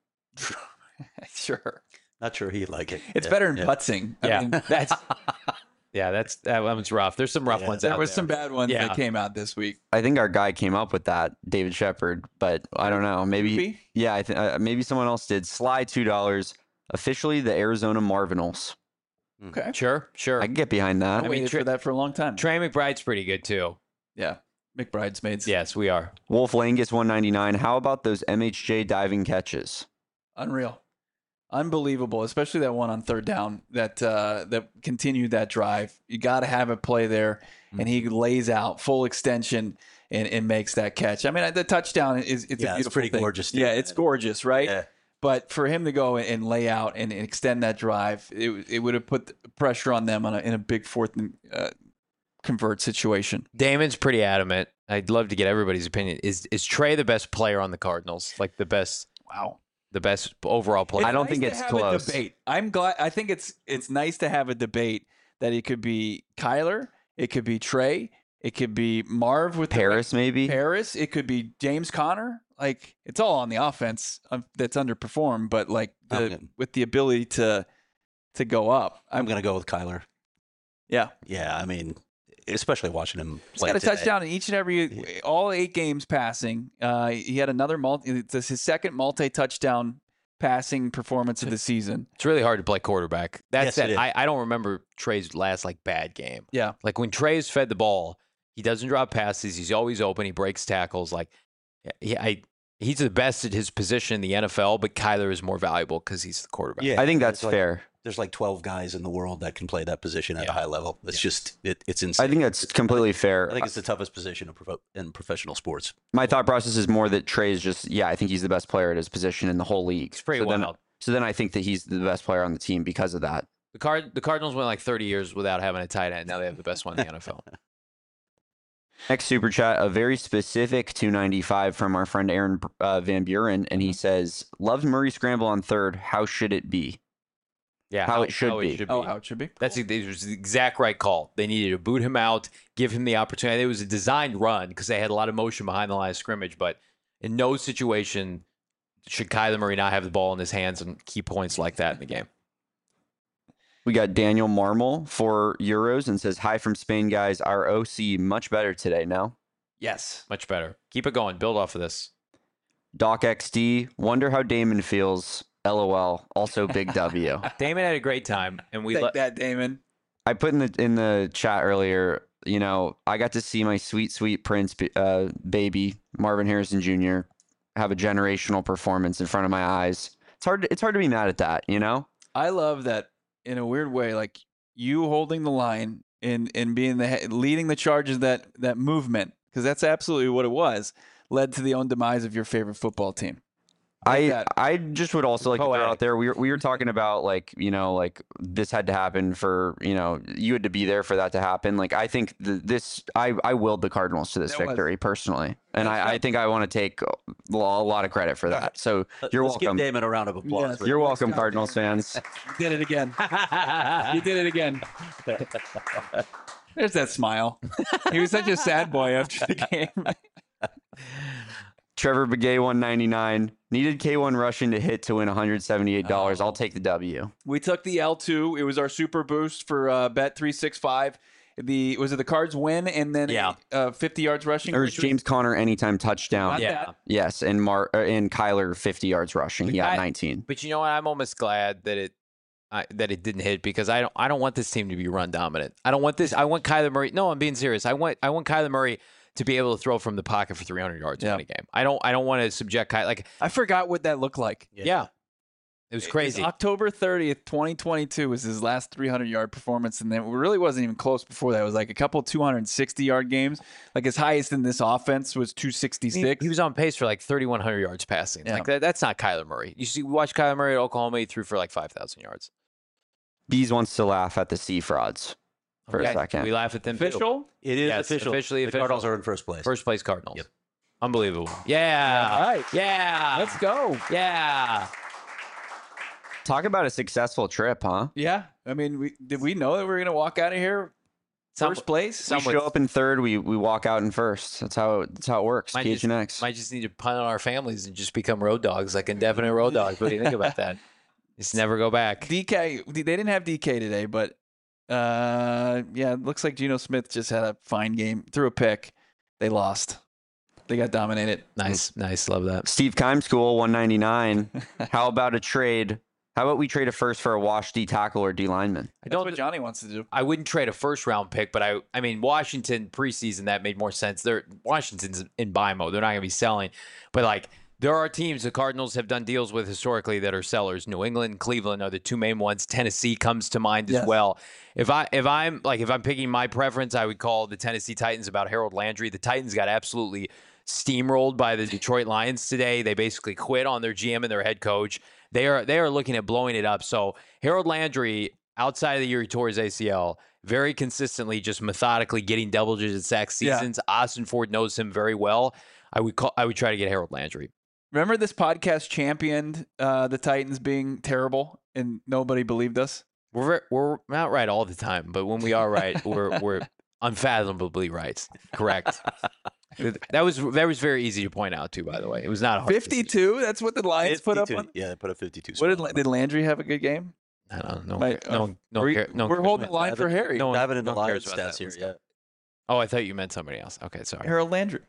Sure. Not sure he'd like it. It's better than putzing. Yeah, I mean, that one's rough. There's some rough ones out there. There were some bad ones that came out this week. I think our guy came up with that, David Shepard, but I don't know. Maybe, Droopy? Yeah, I think maybe someone else did. Sly $2. Officially the Arizona Marvinals. Okay. Sure. I can get behind that. I waited for that for a long time. Trey McBride's pretty good too. Yeah. McBridesmaids. Yes, we are. Wolf Langus 199. How about those MHJ diving catches? Unreal. Unbelievable, especially that one on third down that continued that drive. You got to have a play there, and he lays out full extension and makes that catch. I mean, the touchdown is a beautiful it's pretty thing. gorgeous. Yeah, it's gorgeous, right? Yeah. But for him to go and lay out and extend that drive, it would have put pressure on them in a big fourth and convert situation. Damon's pretty adamant. I'd love to get everybody's opinion. Is Trey the best player on the Cardinals? Like the best? Wow. The best overall player? I don't think it's close. Debate. I'm glad. I think it's nice to have a debate that it could be Kyler, it could be Trey, it could be Marv with Paris, maybe Paris. It could be James Conner. Like it's all on the offense that's underperformed, but like with the ability to go up. I'm gonna go with Kyler. Yeah. Yeah. I mean, especially watching him play. He's got a touchdown in each and every, all 8 games passing. He had another it's his second multi-touchdown passing performance of the season. It's really hard to play quarterback. That's Yes, it is. I don't remember Trey's last bad game. Yeah. Like when Trey's fed the ball, he doesn't drop passes. He's always open. He breaks tackles. Like, he's the best at his position in the NFL, but Kyler is more valuable because he's the quarterback. Yeah, I think that's fair. There's like 12 guys in the world that can play that position at a high level. It's just, it's insane. I think that's completely fair. I think it's the toughest position in professional sports. My thought process is more that Trey's just, I think he's the best player at his position in the whole league. It's pretty wild. So then I think that he's the best player on the team because of that. The Cardinals went like 30 years without having a tight end. Now they have the best one in the NFL. Next super chat, a very specific 295 from our friend Aaron Van Buren, and he says, "Loved Murray scramble on third. How should it be?" Yeah, how it should be. How it should be. It was the exact right call. They needed to boot him out, give him the opportunity. It was a designed run because they had a lot of motion behind the line of scrimmage, but in no situation should Kyler Murray not have the ball in his hands and key points like that in the game. We got Daniel Marmol for Euros and says, "Hi from Spain, guys. Our OC much better today, no?" Yes, much better. Keep it going. Build off of this. Doc XD, wonder how Damon feels. LOL. Also big W. Damon had a great time, and we Take that, Damon. I put in the chat earlier, I got to see my sweet Prince baby, Marvin Harrison Jr., have a generational performance in front of my eyes. It's hard to be mad at that, I love that in a weird way. Like you holding the line and being leading the charges, that movement, because that's absolutely what it was, led to the own demise of your favorite football team. I just would also like to throw out there, we were talking about like this had to happen for, you had to be there for that to happen. Like I think I willed the Cardinals to this victory personally, and I think I want to take a lot of credit for that. So you're Let's welcome. Give Damon a round of applause. Yes. You're welcome, Cardinals fans. You did it again. You did it again. There's that smile. He was such a sad boy after the game. Trevor Begay, 199. Needed K1 Rushing to hit to win $178. I'll take the W. We took the L2. It was our super boost for Bet 365. Was it the Cards win and then 50 yards rushing? Or was James Conner anytime touchdown? Yeah. Yes, and Kyler 50 yards rushing. He got 19. But you know what? I'm almost glad that it didn't hit, because I don't want this team to be run dominant. I don't want this. I want Kyler Murray. No, I'm being serious. I want Kyler Murray to be able to throw from the pocket for 300 yards in a game. I don't want to subject Kyler. I forgot what that looked like. Yeah. It was crazy. October 30th, 2022 was his last 300-yard performance, and then it really wasn't even close before that. It was like a couple 260-yard games. Like his highest in this offense was 266. He was on pace for like 3,100 yards passing. Yeah. Like that's not Kyler Murray. We watched Kyler Murray at Oklahoma. He threw for like 5,000 yards. Bees wants to laugh at the C frauds for a second. We laugh at them. Official? It is official. Officially the official. Cardinals are in first place. First place Cardinals. Yep. Unbelievable. Yeah. All right. Yeah. Let's go. Yeah. Talk about a successful trip, huh? Yeah. I mean, did we know that we were going to walk out of here first place? We show up in third. We walk out in first. That's how it works. KHNX. Might just need to punt on our families and just become road dogs, like indefinite road dogs. What do you think about that? Just never go back. DK, they didn't have DK today, but it looks like Geno Smith just had a fine game. Threw a pick. They lost. They got dominated. Nice. Love that. Steve Keimschool, 199. How about a trade? How about we trade a first for a wash D tackle or D lineman? That's what Johnny wants to do. I wouldn't trade a first round pick, but I mean, Washington preseason, that made more sense. Washington's in buy mode. They're not going to be selling. But like, there are teams the Cardinals have done deals with historically that are sellers. New England, Cleveland are the two main ones. Tennessee comes to mind as well. If I'm picking my preference, I would call the Tennessee Titans about Harold Landry. The Titans got absolutely steamrolled by the Detroit Lions today. They basically quit on their GM and their head coach. They are looking at blowing it up. So Harold Landry, outside of the year he tore his ACL, very consistently, just methodically getting double-digit sack seasons. Yeah. Austin Ford knows him very well. I would try to get Harold Landry. Remember this podcast championed the Titans being terrible, and nobody believed us? We're not right all the time, but when we are right, we're unfathomably right. Correct. That was very easy to point out too, by the way. It was not a hard 52. Decision. That's what the Lions 52. Put up on. Yeah, they put up 52. What did Landry have a good game? I don't know. We're holding the line for Harry. I haven't in the Lions stats here yet. Oh, I thought you meant somebody else. Okay, sorry. Harold Landry.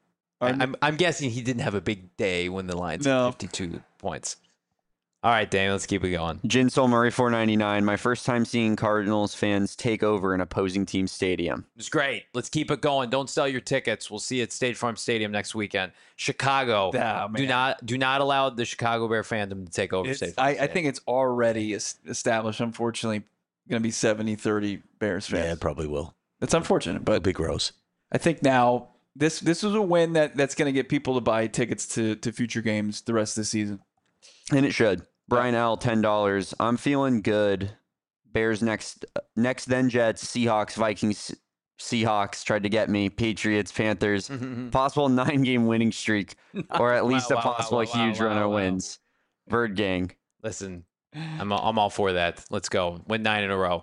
I'm guessing he didn't have a big day when the Lions had 52 points. All right, Dane, let's keep it going. Jinsol Murray, 499. My first time seeing Cardinals fans take over an opposing team stadium. It was great. Let's keep it going. Don't sell your tickets. We'll see you at State Farm Stadium next weekend. Chicago. Do not allow the Chicago Bear fandom to take over State Farm Stadium. I think it's already established, unfortunately, going to be 70-30 Bears fans. Yeah, it probably will. It's unfortunate, but it'll be gross. I think now this is a win that's going to get people to buy tickets to future games the rest of the season. And it should. Brian L, $10. I'm feeling good. Bears next, then Jets, Seahawks, Vikings, Seahawks tried to get me. Patriots, Panthers. Possible 9-game winning streak, or at least a possible huge run of wins. Bird Gang. Listen, I'm all for that. Let's go. Win 9 in a row.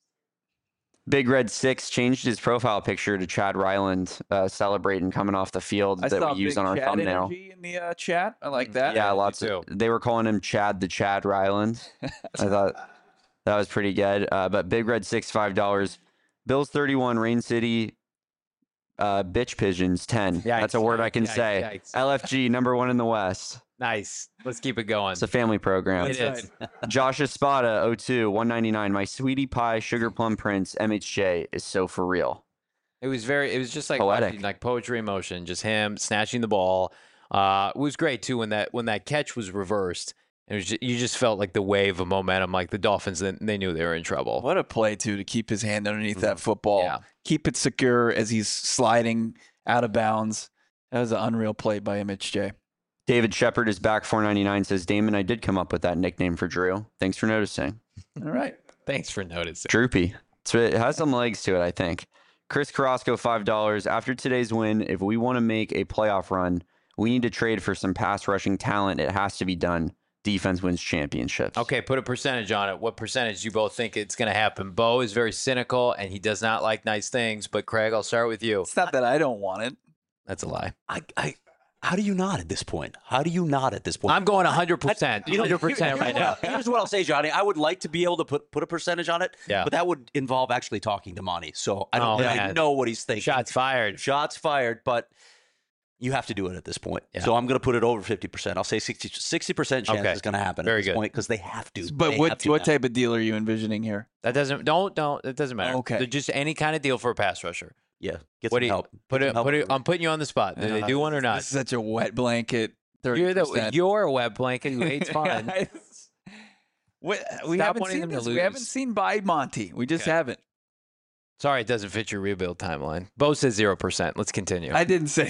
Big Red 6 changed his profile picture to Chad Ryland celebrating coming off the field that we use on our Chad thumbnail. Energy in the chat. I like that. Yeah, lots of. They were calling him Chad the Chad Ryland. I thought that was pretty good. But Big Red 6, $5. Bills 31, Rain City, bitch pigeons 10. Yikes, that's a word I can say. Yikes. LFG #1 in the West. Nice. Let's keep it going. It's a family program. It is. Josh Espada, 02, 199. My Sweetie Pie Sugar Plum Prince MHJ is so for real. It was just like poetic, like poetry in motion. Just him snatching the ball. It was great too when that catch was reversed. And you just felt like the wave of momentum, like the Dolphins, they knew they were in trouble. What a play, too, to keep his hand underneath that football. Yeah. Keep it secure as he's sliding out of bounds. That was an unreal play by Mitch J. David Shepard is back. 499 says, Damon, I did come up with that nickname for Drew. Thanks for noticing. All right. Thanks for noticing. Droopy. It has some legs to it, I think. Chris Carrasco, $5. After today's win, if we want to make a playoff run, we need to trade for some pass rushing talent. It has to be done. Defense wins championships. Okay, put a percentage on it. What percentage do you both think it's going to happen? Bo is very cynical, and he does not like nice things. But, Craig, I'll start with you. It's not that I don't want it. That's a lie. How do you not at this point? I'm going 100%. 100% right now. Here's what I'll say, Johnny. I would like to be able to put a percentage on it, Yeah. but that would involve actually talking to Monty. So I Oh, don't man. I know what he's thinking. Shots fired. Shots fired, but you have to do it at this point. Yeah. So I'm going to put it over 50%. I'll say 60% chance Okay. it's going to happen Very at this good. point because they have to. But They what have to now. type of deal are you envisioning here? That doesn't don't it doesn't matter. Okay. Just any kind of deal for a pass rusher. Yeah, get What some do you help. put Get it some put it help. I'm putting you on the spot. Do they do one or not? This is such a wet blanket. 30%. You're a wet blanket who hates fun. we Stop haven't wanting seen them to this. We haven't lose. seen by Monty. We just Okay. haven't. Sorry, it doesn't fit your rebuild timeline. Bo says 0%. Let's continue. I didn't say.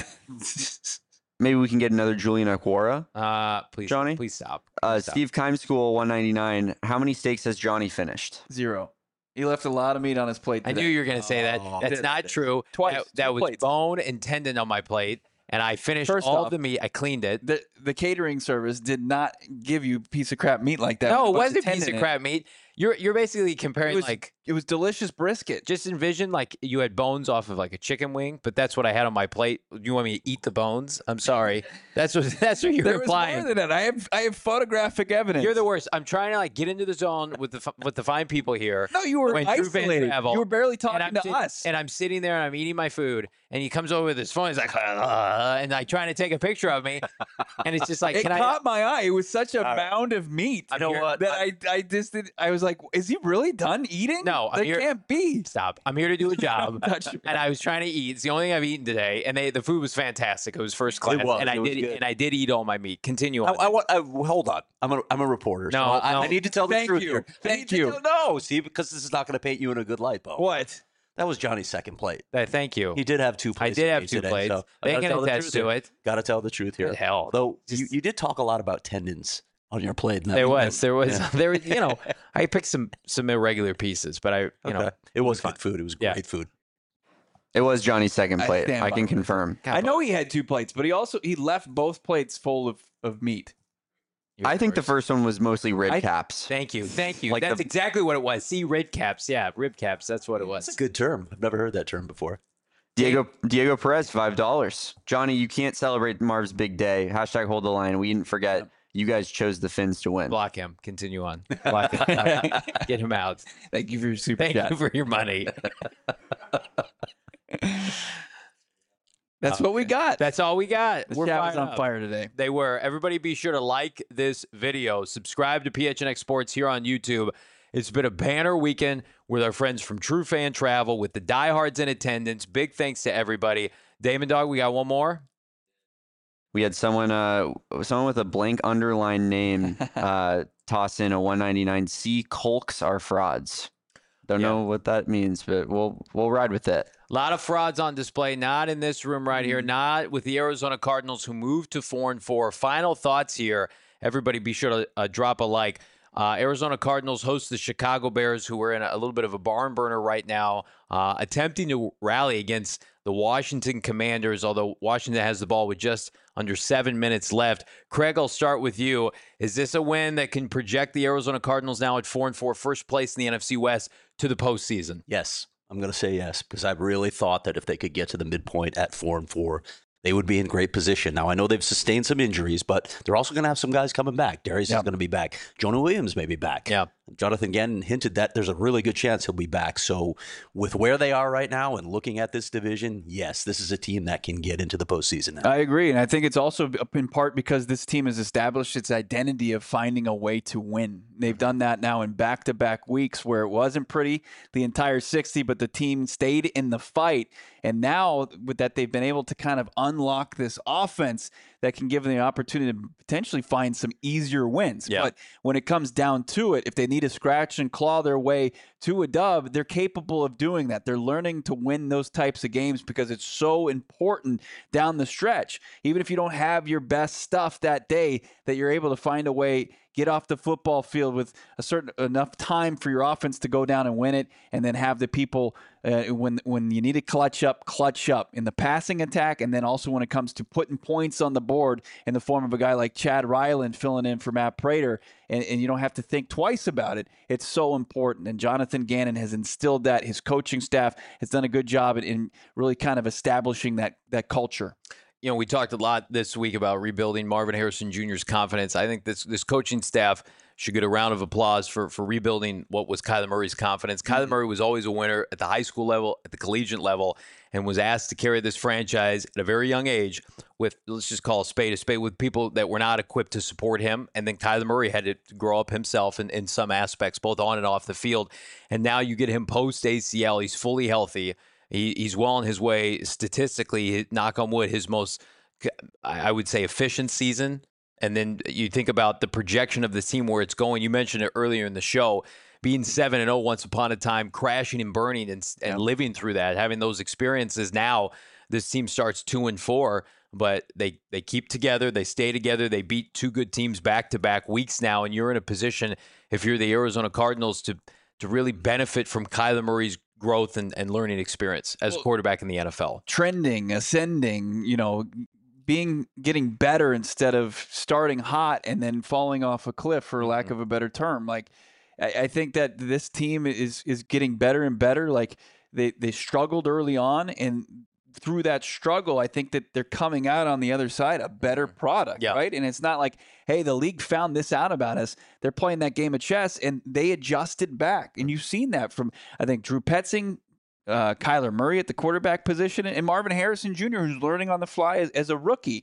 Maybe we can get another Julian Aquara. Please, Johnny? please stop. Please stop. Steve Keimschool, 199. How many steaks has Johnny finished? 0. He left a lot of meat on his plate I today. knew you were going to say that. Oh. That's not true. Twice. That Two was plates. bone and tendon on my plate, and I finished First all off, of the meat. I cleaned it. The catering service did not give you a piece of crap meat like that. No, it with a bunch wasn't a piece tendon of in it. crap meat. You're basically comparing It was delicious brisket. just envision like you had bones off of like a chicken wing, but that's what I had on my plate. You want me to eat the bones? I'm sorry. That's what you're There was implying. more than that. I have photographic evidence. You're the worst. I'm trying to like get into the zone with the fine people here. No, you were when true fans isolated. travel, You were barely and talking I'm to sit- us. And I'm sitting there and I'm eating my food, and he comes over with his phone. He's like, and like trying to take a picture of me, and it's just like, It can I? caught my eye. It was such a mound of meat. You know what? That I just did. I was like, is he really done eating? No, I'm that here- can't be. Stop. I'm here to do a job. Touch your- And I was trying to eat. It's the only thing I've eaten today, and the food was fantastic. It was first class, was. and It was good. I did eat all my meat. Continue on. Hold on. I'm a reporter. So No, I no. need to tell the Thank truth you. here. Thank you. No, see, because this is not going to paint you in a good light, Bo. What? That was Johnny's second plate. Thank you. He did have 2 I plates. did have made 2 today, plates. so I They gotta can tell the attest truth to here. it. Got to tell the truth here. Good hell. Though Just- you did talk a lot about tendons on your plate. and that There was was. Yeah. There was. You know, I picked some irregular pieces, but you know, Okay. It was fine. good food. It was Yeah. great food. It was Johnny's second I plate. stand I by can it. confirm. I know he had 2 plates, but he left both plates full of meat. You're I think the worst. first one was mostly rib I- caps. Thank you. Like That's the- exactly what it was. See, rib caps. Yeah, rib caps. That's what it was. That's a good term. I've never heard that term before. Diego Perez, $5. Johnny, you can't celebrate Marv's big day. Hashtag hold the line. We didn't forget. You guys chose the Finns to win. Block him. Continue on. Block him. Get him out. Thank you for your super Thank chat. you for your money. That's what we got. That's all we got. The We're chat was fired on up. fire today. They were. Everybody be sure to like this video. Subscribe to PHNX Sports here on YouTube. It's been a banner weekend with our friends from True Fan Travel with the diehards in attendance. Big thanks to everybody. Damon Dog, we got one more. We had someone with a blank underline name toss in a 199. C Colks are frauds. Don't know what that means, but we'll ride with it. A lot of frauds on display, not in this room right here, not with the Arizona Cardinals who moved to 4-4. Final thoughts here. Everybody be sure to drop a like. Arizona Cardinals host the Chicago Bears, who are in a little bit of a barn burner right now, attempting to rally against the Washington Commanders, although Washington has the ball with just under 7 minutes left. Craig, I'll start with you. Is this a win that can project the Arizona Cardinals now at 4-4, first place in the NFC West, to the postseason? Yes, I'm going to say yes because I really thought that if they could get to the midpoint at 4-4, they would be in great position. Now, I know they've sustained some injuries, but they're also going to have some guys coming back. Darius is going to be back. Jonah Williams may be back. Yeah. Jonathan Gannon hinted that there's a really good chance he'll be back. So with where they are right now and looking at this division, yes, this is a team that can get into the postseason now. I agree. And I think it's also in part because this team has established its identity of finding a way to win. They've done that now in back-to-back weeks where it wasn't pretty the entire 60, but the team stayed in the fight. And now with that, they've been able to kind of unlock this offense that can give them the opportunity to potentially find some easier wins. Yeah. But when it comes down to it, if they need to scratch and claw their way to a dub, they're capable of doing that. They're learning to win those types of games because it's so important down the stretch. Even if you don't have your best stuff that day, that you're able to find a way, get off the football field with a certain enough time for your offense to go down and win it, and then have the people when you need to clutch up in the passing attack, and then also when it comes to putting points on the board in the form of a guy like Chad Ryland filling in for Matt Prater, and you don't have to think twice about it. It's so important, and Jonathan Gannon has instilled that. His coaching staff has done a good job in really kind of establishing that culture. You know, we talked a lot this week about rebuilding Marvin Harrison Jr.'s confidence. I think this coaching staff should get a round of applause for rebuilding what was Kyler Murray's confidence. Kyler Murray was always a winner at the high school level, at the collegiate level, and was asked to carry this franchise at a very young age with, let's just call a spade, with people that were not equipped to support him. And then Kyler Murray had to grow up himself in some aspects, both on and off the field. And now you get him post-ACL. He's fully healthy. He's well on his way statistically, knock on wood, his most, I would say, efficient season. And then you think about the projection of this team, where it's going. You mentioned it earlier in the show, being 7-0 once upon a time, crashing and burning and living through that, having those experiences. Now this team starts 2-4, but they keep together. They stay together. They beat two good teams back-to-back weeks now, and you're in a position, if you're the Arizona Cardinals, to really benefit from Kyler Murray's growth and learning experience as a quarterback in the NFL. Trending, ascending, getting better instead of starting hot and then falling off a cliff, for lack of a better term. Like, I think that this team is getting better and better. Like, they struggled early on, and through that struggle, I think that they're coming out on the other side a better product, right? And it's not like, hey, the league found this out about us. They're playing that game of chess, and they adjusted back. And you've seen that from, I think, Drew Petzing, Kyler Murray at the quarterback position, and Marvin Harrison Jr., who's learning on the fly as a rookie.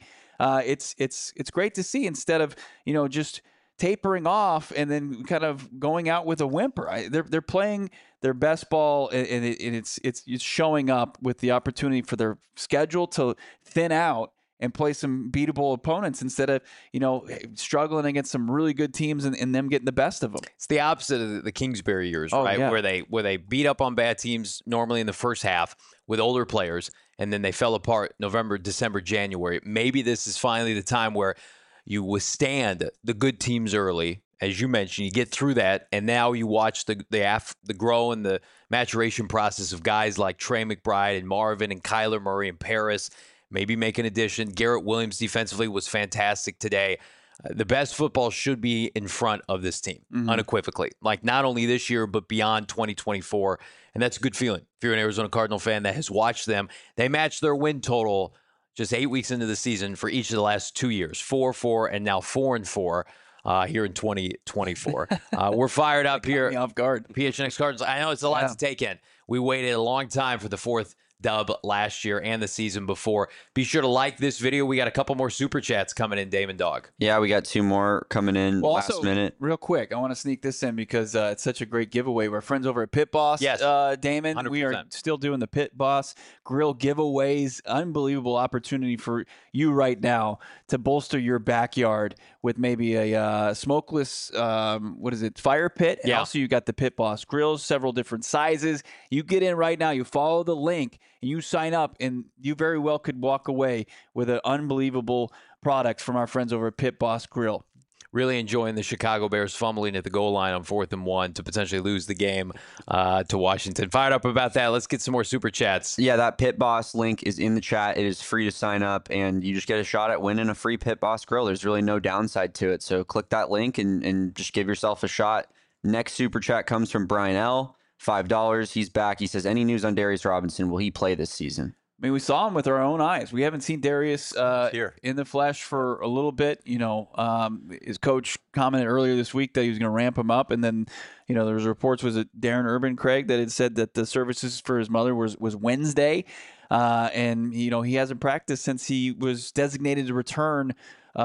It's great to see, instead of just tapering off and then kind of going out with a whimper. They're playing their best ball, and it's showing up with the opportunity for their schedule to thin out and play some beatable opponents instead of struggling against some really good teams and them getting the best of them. It's the opposite of the Kingsbury years, right? Yeah. Where they beat up on bad teams normally in the first half with older players, and then they fell apart November, December, January. Maybe this is finally the time where you withstand the good teams early. As you mentioned, you get through that, and now you watch the grow and the maturation process of guys like Trey McBride and Marvin and Kyler Murray and Paris. Maybe make an addition. Garrett Williams defensively was fantastic today. The best football should be in front of this team, unequivocally. Like, not only this year, but beyond 2024. And that's a good feeling. If you're an Arizona Cardinal fan that has watched them, they matched their win total just 8 weeks into the season for each of the last 2 years, 4-4 and now 4-4 here in 2024. We're fired up here. Me off guard. PHNX Cardinals. I know it's a lot to take in. We waited a long time for the fourth dub last year and the season before. Be sure to like this video. We got a couple more super chats coming in, Damon Dog. Yeah, we got 2 more coming in last minute. Real quick, I want to sneak this in because it's such a great giveaway. We're friends over at Pit Boss. Yes. Damon, 100%. we are still doing the Pit Boss grill giveaways. Unbelievable opportunity for you right now to bolster your backyard with maybe a smokeless, fire pit. And also you got the Pit Boss grills, several different sizes. You get in right now, you follow the link, and you sign up, and you very well could walk away with an unbelievable product from our friends over at Pit Boss Grill. Really enjoying the Chicago Bears fumbling at the goal line on 4th and 1 to potentially lose the game to Washington. Fired up about that. Let's get some more super chats. Yeah, that Pit Boss link is in the chat. It is free to sign up, and you just get a shot at winning a free Pit Boss grill. There's really no downside to it. So click that link and just give yourself a shot. Next super chat comes from Brian L. $5. He's back. He says, any news on Darius Robinson? Will he play this season? I mean, we saw him with our own eyes. We haven't seen Darius here in the flesh for a little bit. His coach commented earlier this week that he was going to ramp him up, and then, there was reports, was it Darren Urban, Craig, that had said that the services for his mother was Wednesday, and he hasn't practiced since he was designated to return.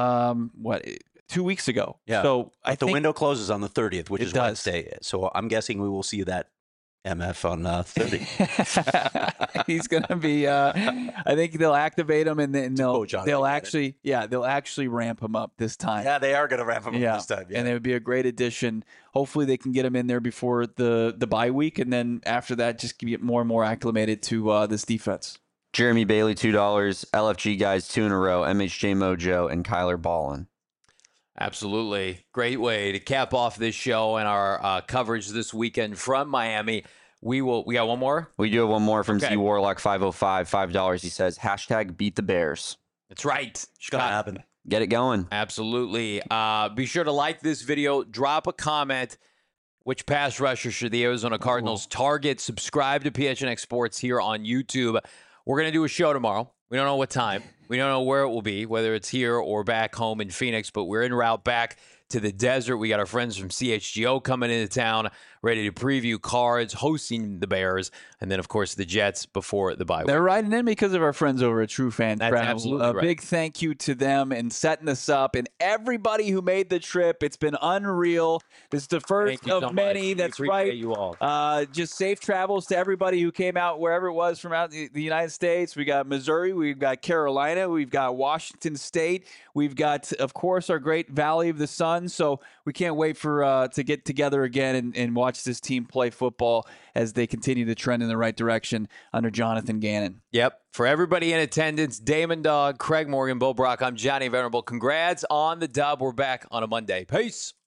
2 weeks ago. Yeah. So I the think window closes on the 30th, which is does. Wednesday. So I'm guessing we will see that MF on 30. He's going to be. I think they'll activate him, and then they'll actually ramp him up this time. Yeah, they are going to ramp him up this time. Yeah. And it would be a great addition. Hopefully, they can get him in there before the bye week, and then after that, just get more and more acclimated to this defense. Jeremy Bailey, $2. LFG guys, 2 in a row. MHJ Mojo and Kyler Ballin. Absolutely. Great way to cap off this show and our coverage this weekend from Miami. We got one more? We do have one more from Z Warlock 505, $5. He says, #beat the Bears. That's right. It's going to happen. Get it going. Absolutely. Be sure to like this video. Drop a comment. Which pass rusher should the Arizona Cardinals target? Subscribe to PHNX Sports here on YouTube. We're going to do a show tomorrow. We don't know what time. We don't know where it will be, whether it's here or back home in Phoenix, but we're en route back to the desert. We got our friends from CHGO coming into town, ready to preview Cards, hosting the Bears, and then, of course, the Jets before the bye week. They're riding in because of our friends over at True Fan That's Travel. absolutely A right. big thank you to them and setting this up, and everybody who made the trip. It's been unreal. This is the first Thank you of so many. much. We That's appreciate right. you all. Just safe travels to everybody who came out wherever it was from out the United States. We got Missouri, we've got Carolina, we've got Washington State, we've got, of course, our great Valley of the Sun. So we can't wait for to get together again and watch this team play football as they continue to trend in the right direction under Jonathan Gannon. Yep. For everybody in attendance, Damon Dog, Craig Morgan, Bo Brock, I'm Johnny Venerable. Congrats on the dub. We're back on a Monday. Peace.